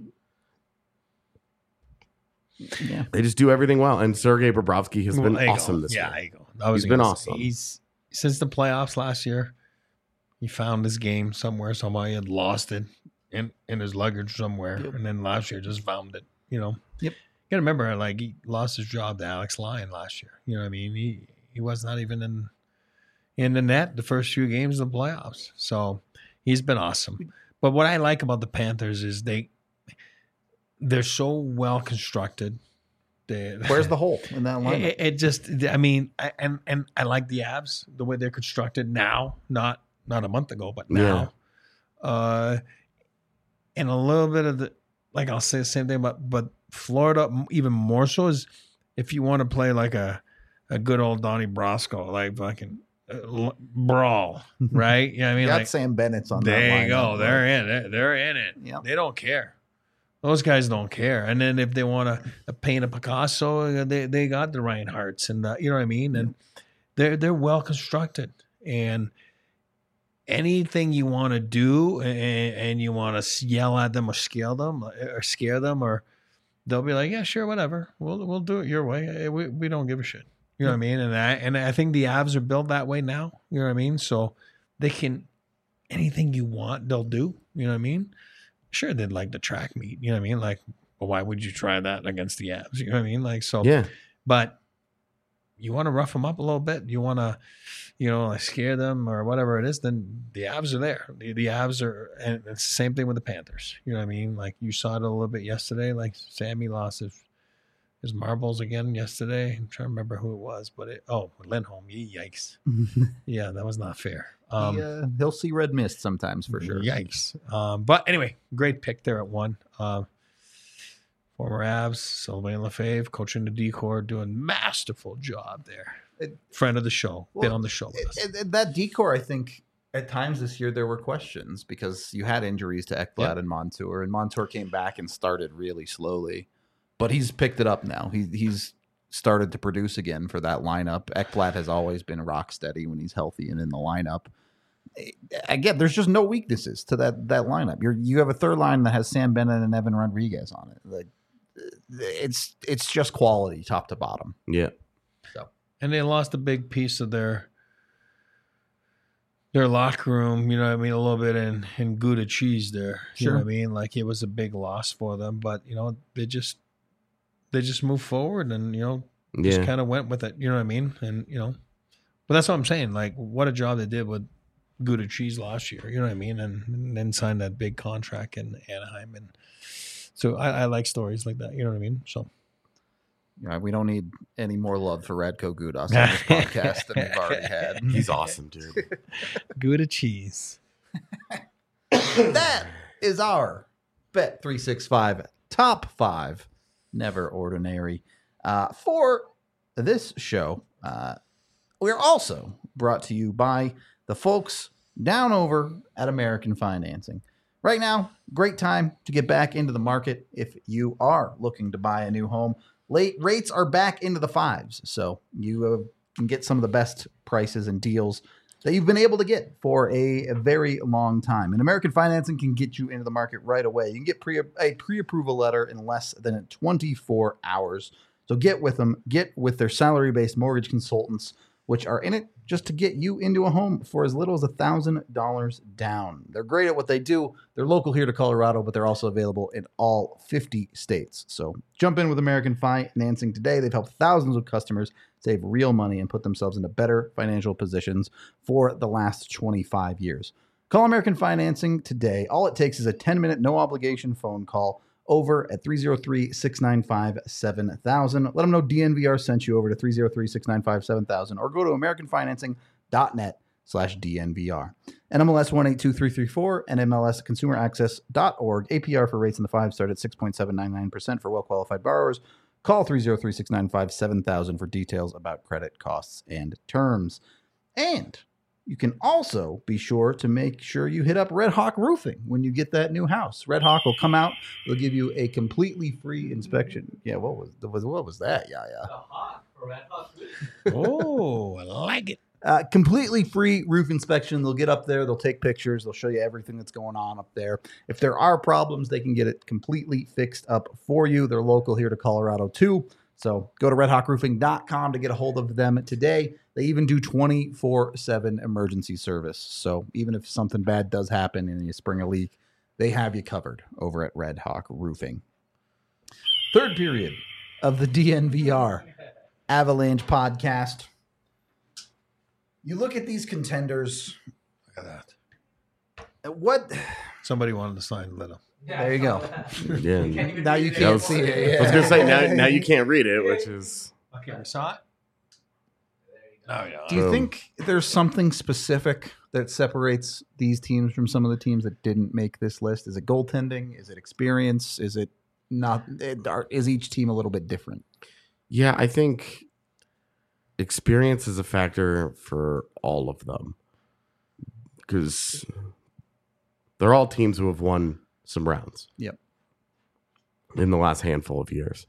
Yeah, they just do everything well, and Sergei Bobrovsky has been awesome this year. Yeah, there you go. He's been awesome. He's since the playoffs last year. He found his game somewhere. Somebody had lost it in his luggage somewhere, and then last year just found it. Yep. You gotta remember, he lost his job to Alex Lyon last year. You know what I mean? He was not even in the net the first few games of the playoffs. So he's been awesome. But what I like about the Panthers is they're so well constructed. Where's the hole in that lineup? I like the Avs the way they're constructed now, not a month ago, but now. Yeah. And a little bit of I'll say the same thing, but Florida even more so is if you want to play like a good old Donnie Brasco, fucking brawl, right? You know what I mean? Got Sam Bennett's on there that lineup. You go. They're in it. They're in it. Yep. They don't care. Those guys don't care. And then if they want to paint a Picasso, they got the Reinhardts and you know what I mean? And they're well constructed. And anything you want to do and you want to yell at them or scare them, or they'll be like, yeah, sure, whatever. We'll do it your way. We don't give a shit. You know what I mean? And I think the Avs are built that way now. You know what I mean? So they can, anything you want, they'll do. You know what I mean? Sure, they'd like the track meet. You know what I mean? Well, why would you try that against the Avs? You know what I mean? So, yeah. But you want to rough them up a little bit, you want to, like scare them or whatever it is, then the Avs are there. The Avs are, and it's the same thing with the Panthers. You know what I mean? Like you saw it a little bit yesterday. Like Sammy lost his marbles again yesterday. I'm trying to remember who it was, but Lindholm. Yikes! Yeah, that was not fair. He'll see red mist sometimes for sure. Yikes! But anyway, great pick there at 1. Former Avs, Sylvain Lefebvre, coaching the decor, doing masterful job there. Friend of the show, been on the show with us. That decor, I think, at times this year there were questions because you had injuries to Ekblad and Montour, and Montour came back and started really slowly, but he's picked it up now. He's started to produce again for that lineup. Ekblad has always been rock steady when he's healthy and in the lineup. Again, there's just no weaknesses to that lineup. You have a third line that has Sam Bennett and Evan Rodriguez on it. Like, it's just quality top to bottom. Yeah. So, and they lost a big piece of their locker room, you know what I mean, a little bit in Gouda cheese there. You know what I mean? Like it was a big loss for them, but they just moved forward and just kind of went with it. You know what I mean? And but that's what I'm saying. Like what a job they did with Gouda cheese last year. You know what I mean? And then signed that big contract in Anaheim. And so I like stories like that. You know what I mean? So. We don't need any more love for Radko Gudas on this podcast than we've already had. He's awesome, dude. Gouda cheese. That is our Bet365 top 5 Never Ordinary. For this show, we're also brought to you by the folks down over at American Financing. Right now, great time to get back into the market if you are looking to buy a new home. Rates are back into the 5s, so you can get some of the best prices and deals that you've been able to get for a very long time. And American Financing can get you into the market right away. You can get a pre-approval letter in less than 24 hours. So get with them. Get with their salary-based mortgage consultants, which are in it just to get you into a home for as little as $1,000 down. They're great at what they do. They're local here to Colorado, but they're also available in all 50 states. So jump in with American Financing today. They've helped thousands of customers save real money and put themselves into better financial positions for the last 25 years. Call American Financing today. All it takes is a 10-minute, no-obligation phone call over at 303-695-7000. Let them know DNVR sent you over to 303-695-7000 or go to americanfinancing.net/DNVR. NMLS 182334 and NMLSconsumeraccess.org. APR for rates in the 5 start at 6.799% for well-qualified borrowers. Call 303-695-7000 for details about credit costs and terms. And you can also be sure to make sure you hit up Red Hawk Roofing when you get that new house. Red Hawk will come out. They'll give you a completely free inspection. Yeah, what was that? Yeah. The Hawk for Red Hawk Roofing. Oh, I like it. Completely free roof inspection. They'll get up there. They'll take pictures. They'll show you everything that's going on up there. If there are problems, they can get it completely fixed up for you. They're local here to Colorado too. So go to redhawkroofing.com to get a hold of them today. They even do 24/7 emergency service. So even if something bad does happen and you spring a leak, they have you covered over at Red Hawk Roofing. Third period of the DNVR Avalanche podcast. You look at these contenders. Look at that. What? Somebody wanted to sign Little. Yeah, There you go. Yeah. Now you can't see it. I was gonna say now you can't read it, which is Okay, we saw it. No, yeah. Do you think there's something specific that separates these teams from some of the teams that didn't make this list? Is it goaltending? Is it experience? Is it not? Is each team a little bit different? Yeah, I think experience is a factor for all of them because they're all teams who have won some rounds. Yep. In the last handful of years.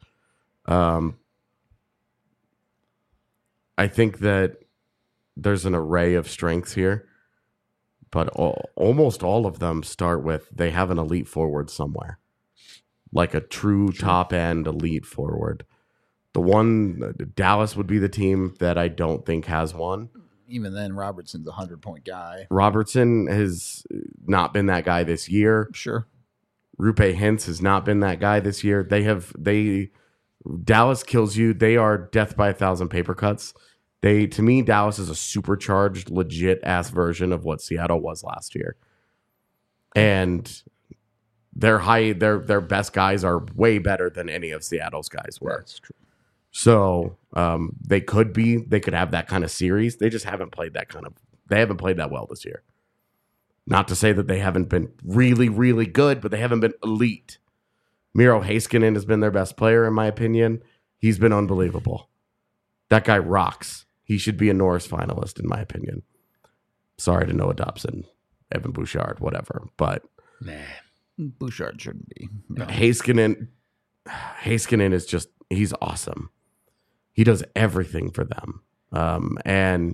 I think that there's an array of strengths here, but almost all of them start with they have an elite forward somewhere, like a true top-end elite forward. The one, Dallas would be the team that I don't think has one. Even then, Robertson's a 100-point guy. Robertson has not been that guy this year. Sure. Rupe Hintz has not been that guy this year. They Dallas kills you. They are death by 1,000 paper cuts. To me, Dallas is a supercharged, legit ass version of what Seattle was last year. And their best guys are way better than any of Seattle's guys were. That's true. So they could have that kind of series. They just haven't played they haven't played that well this year. Not to say that they haven't been really, really good, but they haven't been elite. Miro Heiskanen has been their best player, in my opinion. He's been unbelievable. That guy rocks. He should be a Norris finalist, in my opinion. Sorry to Noah Dobson, Evan Bouchard, whatever. But Bouchard shouldn't be. No. Heiskanen is just, he's awesome. He does everything for them. And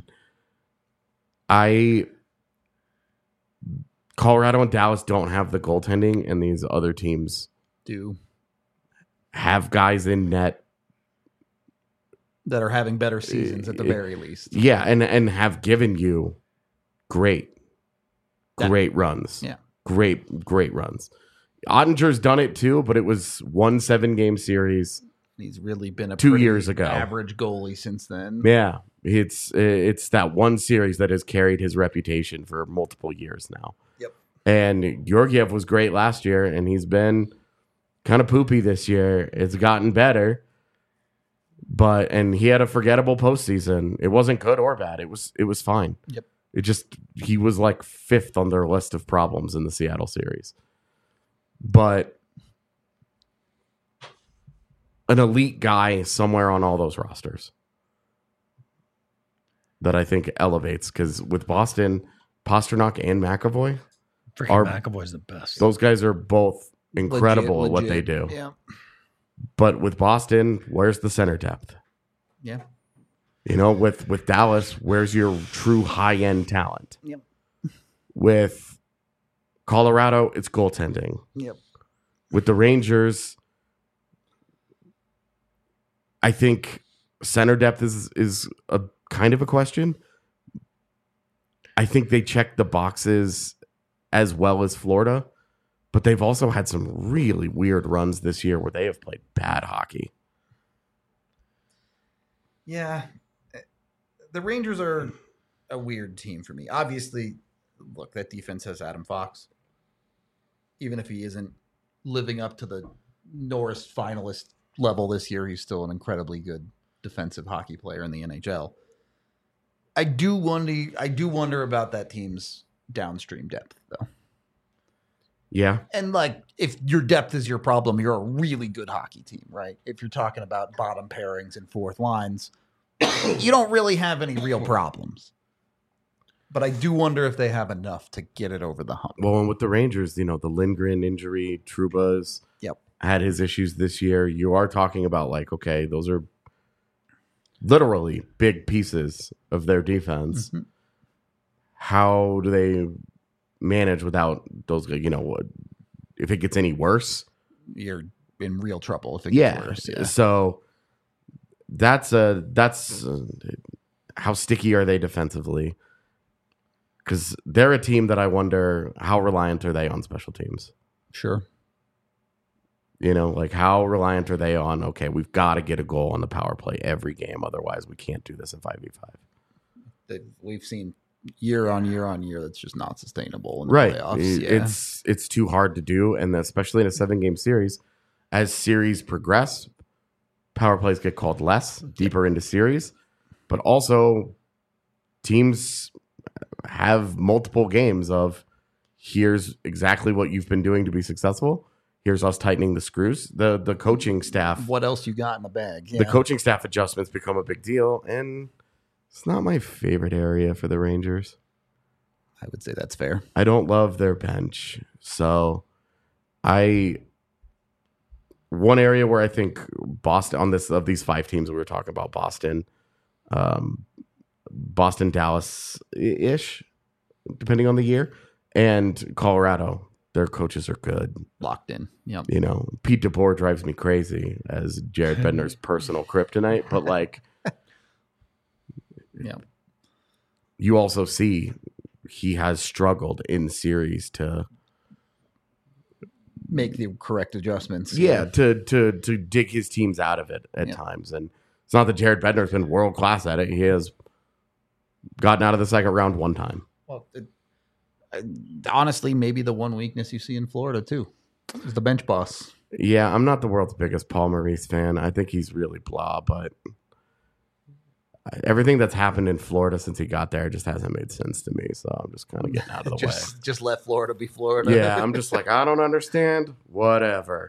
Colorado and Dallas don't have the goaltending, and these other teams Do have guys in net that are having better seasons at the very least. Yeah, and have given you great runs. Yeah. Great runs. Ottinger's done it too, but it was 1 7-game series. He's really been a 2 pretty years ago. average goalie since then. Yeah. It's that one series that has carried his reputation for multiple years now. Yep. And Georgiev was great last year, and he's been kind of poopy this year. It's gotten better. And he had a forgettable postseason. It wasn't good or bad. It was fine. Yep. He was like 5th on their list of problems in the Seattle series. But an elite guy somewhere on all those rosters that I think elevates, because with Boston, Pasternak and McAvoy, McAvoy's the best. those guys are both incredible at what Legit. they do. Yeah. But with Boston, where's the center depth? Yeah. With Dallas, where's your true high-end talent? Yep. With Colorado, it's goaltending. Yep. With the Rangers, I think center depth is a kind of a question. I think they check the boxes as well as Florida, but they've also had some really weird runs this year where they have played bad hockey. Yeah. The Rangers are a weird team for me. Obviously, look, that defense has Adam Fox. Even if he isn't living up to the Norris finalist level this year, he's still an incredibly good defensive hockey player in the NHL. I do wonder about that team's downstream depth, though. Yeah. And like, if your depth is your problem, you're a really good hockey team, right? If you're talking about bottom pairings and fourth lines, you don't really have any real problems. But I do wonder if they have enough to get it over the hump. Well, and with the Rangers, the Lindgren injury, Trouba's had his issues this year. You are talking about like, okay, those are literally big pieces of their defense. Mm-hmm. How do they manage without those? If it gets any worse, you're in real trouble. If it gets worse, yeah. So that's how sticky are they defensively? Because they're a team that I wonder how reliant are they on special teams. Sure. Like how reliant are they on, okay, we've got to get a goal on the power play every game. Otherwise, we can't do this in 5v5. We've seen year on year on year that's just not sustainable in the right. playoffs. Yeah. It's too hard to do. And especially in a 7-game series, as series progress, power plays get called less deeper into series. But also teams have multiple games of here's exactly what you've been doing to be successful. Here's us tightening the screws. The coaching staff. What else you got in the bag? Yeah. The coaching staff adjustments become a big deal, and it's not my favorite area for the Rangers. I would say that's fair. I don't love their bench. So one area where I think Boston of these 5 teams we were talking about, Boston, Dallas-ish, depending on the year, and Colorado. Their coaches are good. Locked in. Yep. Pete DeBoer drives me crazy as Jared Bednar's personal kryptonite, but like, yeah, you also see he has struggled in series to make the correct adjustments. Yeah, to dig his teams out of it at times. And it's not that Jared Bednar's been world class at it. He has gotten out of the second round one time. Well, honestly, maybe the one weakness you see in Florida too is the bench boss. Yeah, I'm not the world's biggest Paul Maurice fan. I think he's really blah, but everything that's happened in Florida since he got there just hasn't made sense to me. So I'm just kind of getting out of the way. Just let Florida be Florida. Yeah, I'm just like, I don't understand. Whatever.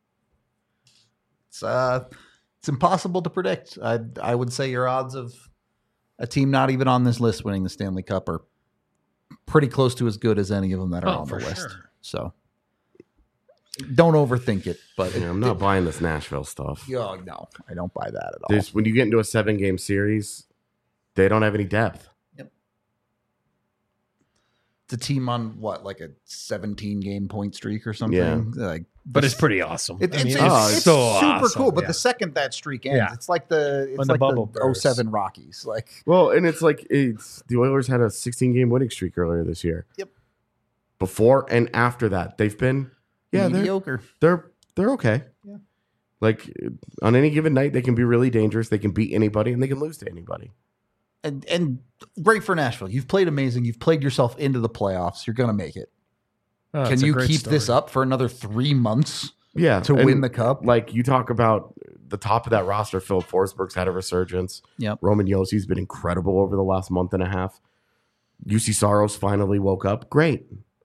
It's impossible to predict. I would say your odds of a team not even on this list winning the Stanley Cup are pretty close to as good as any of them that are on the list. Sure. So don't overthink it. But I'm not buying this Nashville stuff. Oh, no, I don't buy that at all. When you get into a 7-game series, they don't have any depth. Yep. It's a team on what, like a 17-game point streak or something? Yeah. But it's pretty awesome. It's so super awesome. cool. But Yeah. the second that streak ends, Yeah. it's like the bubble bursts. 07 Rockies. Like, Well, and it's like the Oilers had a 16-game winning streak earlier this year. Yep. Before and after that, they've been mediocre. They're okay. Yeah. Like on any given night, they can be really dangerous. They can beat anybody and they can lose to anybody. And great for Nashville. You've played amazing. You've played yourself into the playoffs. You're going to make it. Oh, Can it's a you great keep story. this up for another 3 months Yeah, to and win the cup? Like you talk about the top of that roster, Philip Forsberg's had a resurgence. Yep. Roman Yossi's been incredible over the last month and a half. UC Saros finally woke up. Great.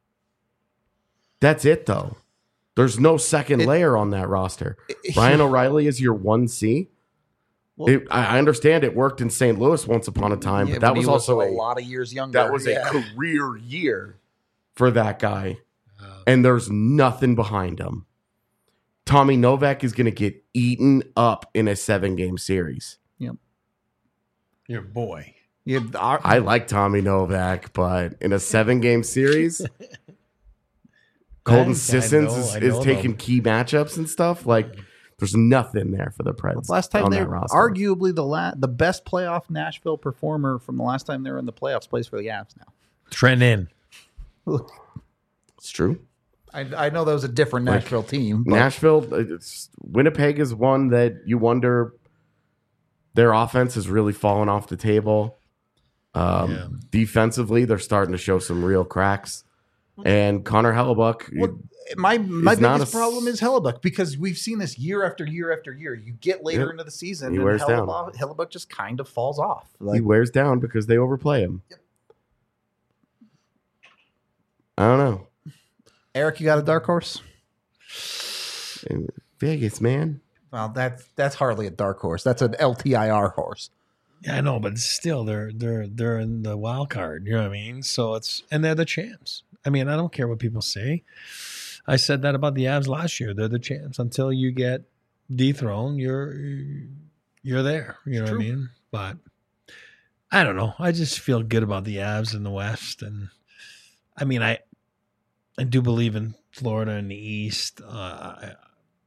That's it, though. There's no second layer on that roster. Ryan O'Reilly is your 1C. Well, I understand it worked in St. Louis once upon a time, but that when was he also a lot of years younger. that was a career year for that guy, and there's nothing behind him. Tommy Novak is going to get eaten up in a 7-game series. Yep. Your boy. Yeah, I like Tommy Novak, but in a 7-game series, Colton Sissons is taking key matchups and stuff. Like, there's nothing there for the Preds. last time on they that roster. arguably the best playoff Nashville performer from the last time they were in the playoffs plays for the Avs now. Trent in. It's true. I know that was a different Nashville team. But Nashville, Winnipeg is one that you wonder their offense has really fallen off the table. Defensively, they're starting to show some real cracks. And Connor Hellebuck, my not biggest problem is Hellebuck, because we've seen this year after year after year. You get later into the season, He and wears down. Hellebuck just kind of falls off. he wears down because they overplay him. I don't know. Eric, you got a dark horse? In Vegas, man. Well, that's hardly a dark horse. That's an LTIR horse. Yeah, I know, but still, they're in the wild card. You know what I mean? So and they're the champs. I mean, I don't care what people say. I said that about the Avs last year. They're the champs. Until you get dethroned, you're there. You know what I mean? But I don't know. I just feel good about the Avs in the West, and I mean, I do believe in Florida in the East. I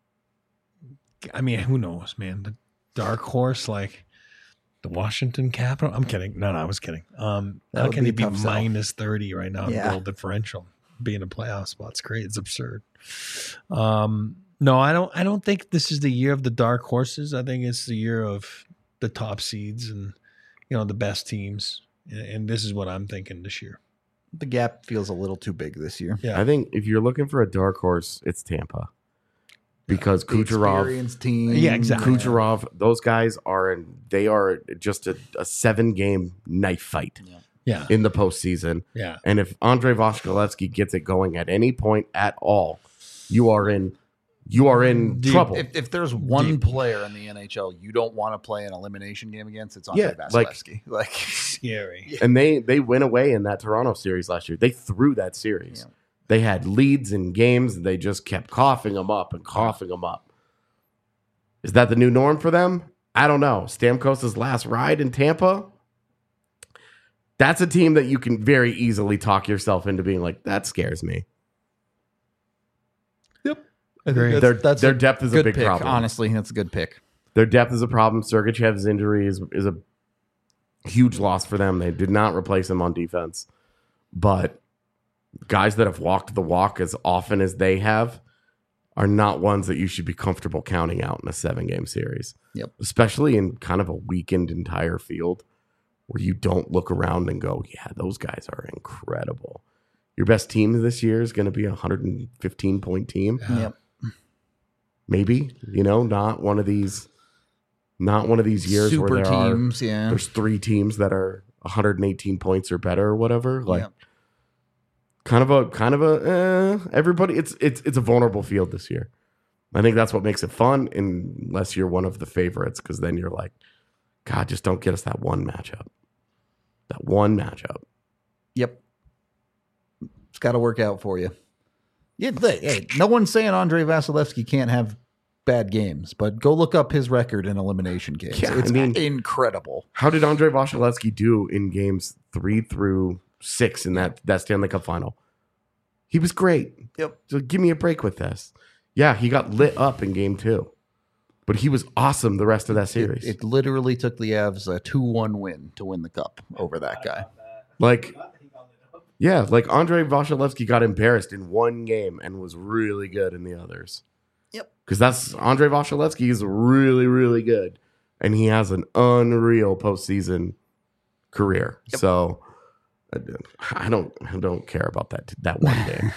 mean, who knows, man? The dark horse, like the Washington Capitol. I'm kidding. No, I was kidding. How would can be it be a tough sell. minus 30 right now? Yeah. Goal differential being a playoff spot. It's great. It's absurd. No, I don't think this is the year of the dark horses. I think it's the year of the top seeds and the best teams. And this is what I'm thinking this year. The gap feels a little too big this year. Yeah. I think if you're looking for a dark horse, it's Tampa. Because The Kucherov, experienced team. Yeah, exactly. Kucherov, those guys they are just a 7-game knife fight Yeah. in the postseason. Yeah. And if Andrei Vasilevsky gets it going at any point at all, you are in trouble. If there's one player in the NHL you don't want to play an elimination game against, it's Andrei Vasilevsky. Like Scary. And they went away in that Toronto series last year. They threw that series. Yeah. They had leads in games, and they just kept coughing them up and coughing them up. Is that the new norm for them? I don't know. Stamkos' last ride in Tampa, that's a team that you can very easily talk yourself into being like, that scares me. I Agree. think that's Their depth is a good big pick. problem. Honestly, that's a good pick. Their depth is a problem. Sergachev's injury is a huge loss for them. They did not replace him on defense. But guys that have walked the walk as often as they have are not ones that you should be comfortable counting out in a 7-game series. Yep. Especially in kind of a weakened entire field where you don't look around and go, yeah, those guys are incredible. Your best team this year is going to be a 115-point team. Yep. Maybe, not one of these years Super where teams, there's 3 teams that are 118 points or better or whatever. Like Yep. kind of a everybody. It's a vulnerable field this year. I think that's what makes it fun, unless you're one of the favorites, because then you're like, God, just don't get us that one matchup. That one matchup. Yep. It's got to work out for you. Yeah, hey, no one's saying Andre Vasilevsky can't have bad games, but go look up his record in elimination games. Yeah, It's incredible. How did Andre Vasilevsky do in games 3 through 6 in that Stanley Cup final? He was great. Yep. So give me a break with this. Yeah, he got lit up in game 2, but he was awesome the rest of that series. It literally took the Avs a 2-1 win to win the cup over that guy. Like Andre Vasilevsky got embarrassed in one game and was really good in the others. Yep. Because that's Andre Vasilevsky is really, really good, and he has an unreal postseason career. Yep. So I don't care about that one game.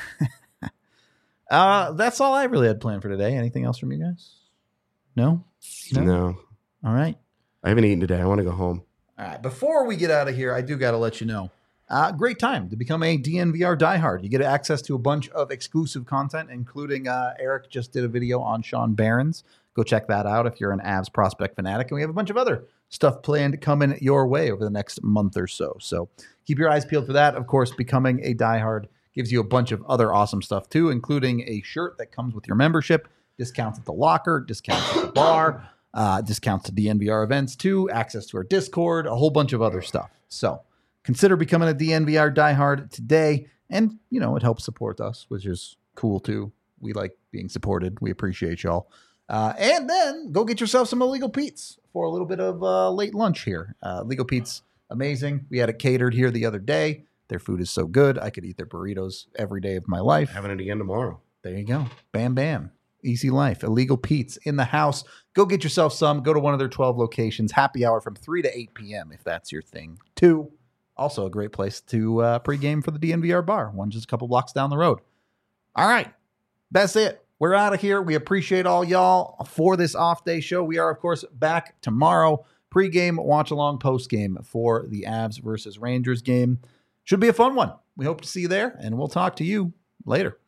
That's all I really had planned for today. Anything else from you guys? No? No, All right. I haven't eaten today. I want to go home. All right. Before we get out of here, I do got to let you know. Great time to become a DNVR diehard. You get access to a bunch of exclusive content, including Eric just did a video on Sean Barons. Go check that out if you're an Avs prospect fanatic. And we have a bunch of other stuff planned coming your way over the next month or so. So keep your eyes peeled for that. Of course, becoming a diehard gives you a bunch of other awesome stuff too, including a shirt that comes with your membership, discounts at the locker, discounts at the bar, discounts to DNVR events too, access to our Discord, a whole bunch of other stuff. So consider becoming a DNVR diehard today. And, it helps support us, which is cool too. We like being supported. We appreciate y'all. And then go get yourself some Illegal Pete's for a little bit of late lunch here. Illegal Pete's, amazing. We had it catered here the other day. Their food is so good. I could eat their burritos every day of my life. Having it again tomorrow. There you go. Bam, bam. Easy life. Illegal Pete's in the house. Go get yourself some. Go to one of their 12 locations. Happy hour from 3 to 8 p.m. if that's your thing, too. Also a great place to pregame for the DNVR bar. One just a couple blocks down the road. All right. That's it. We're out of here. We appreciate all y'all for this off-day show. We are, of course, back tomorrow. Pre-game, watch-along, post-game for the Avs versus Rangers game. Should be a fun one. We hope to see you there, and we'll talk to you later.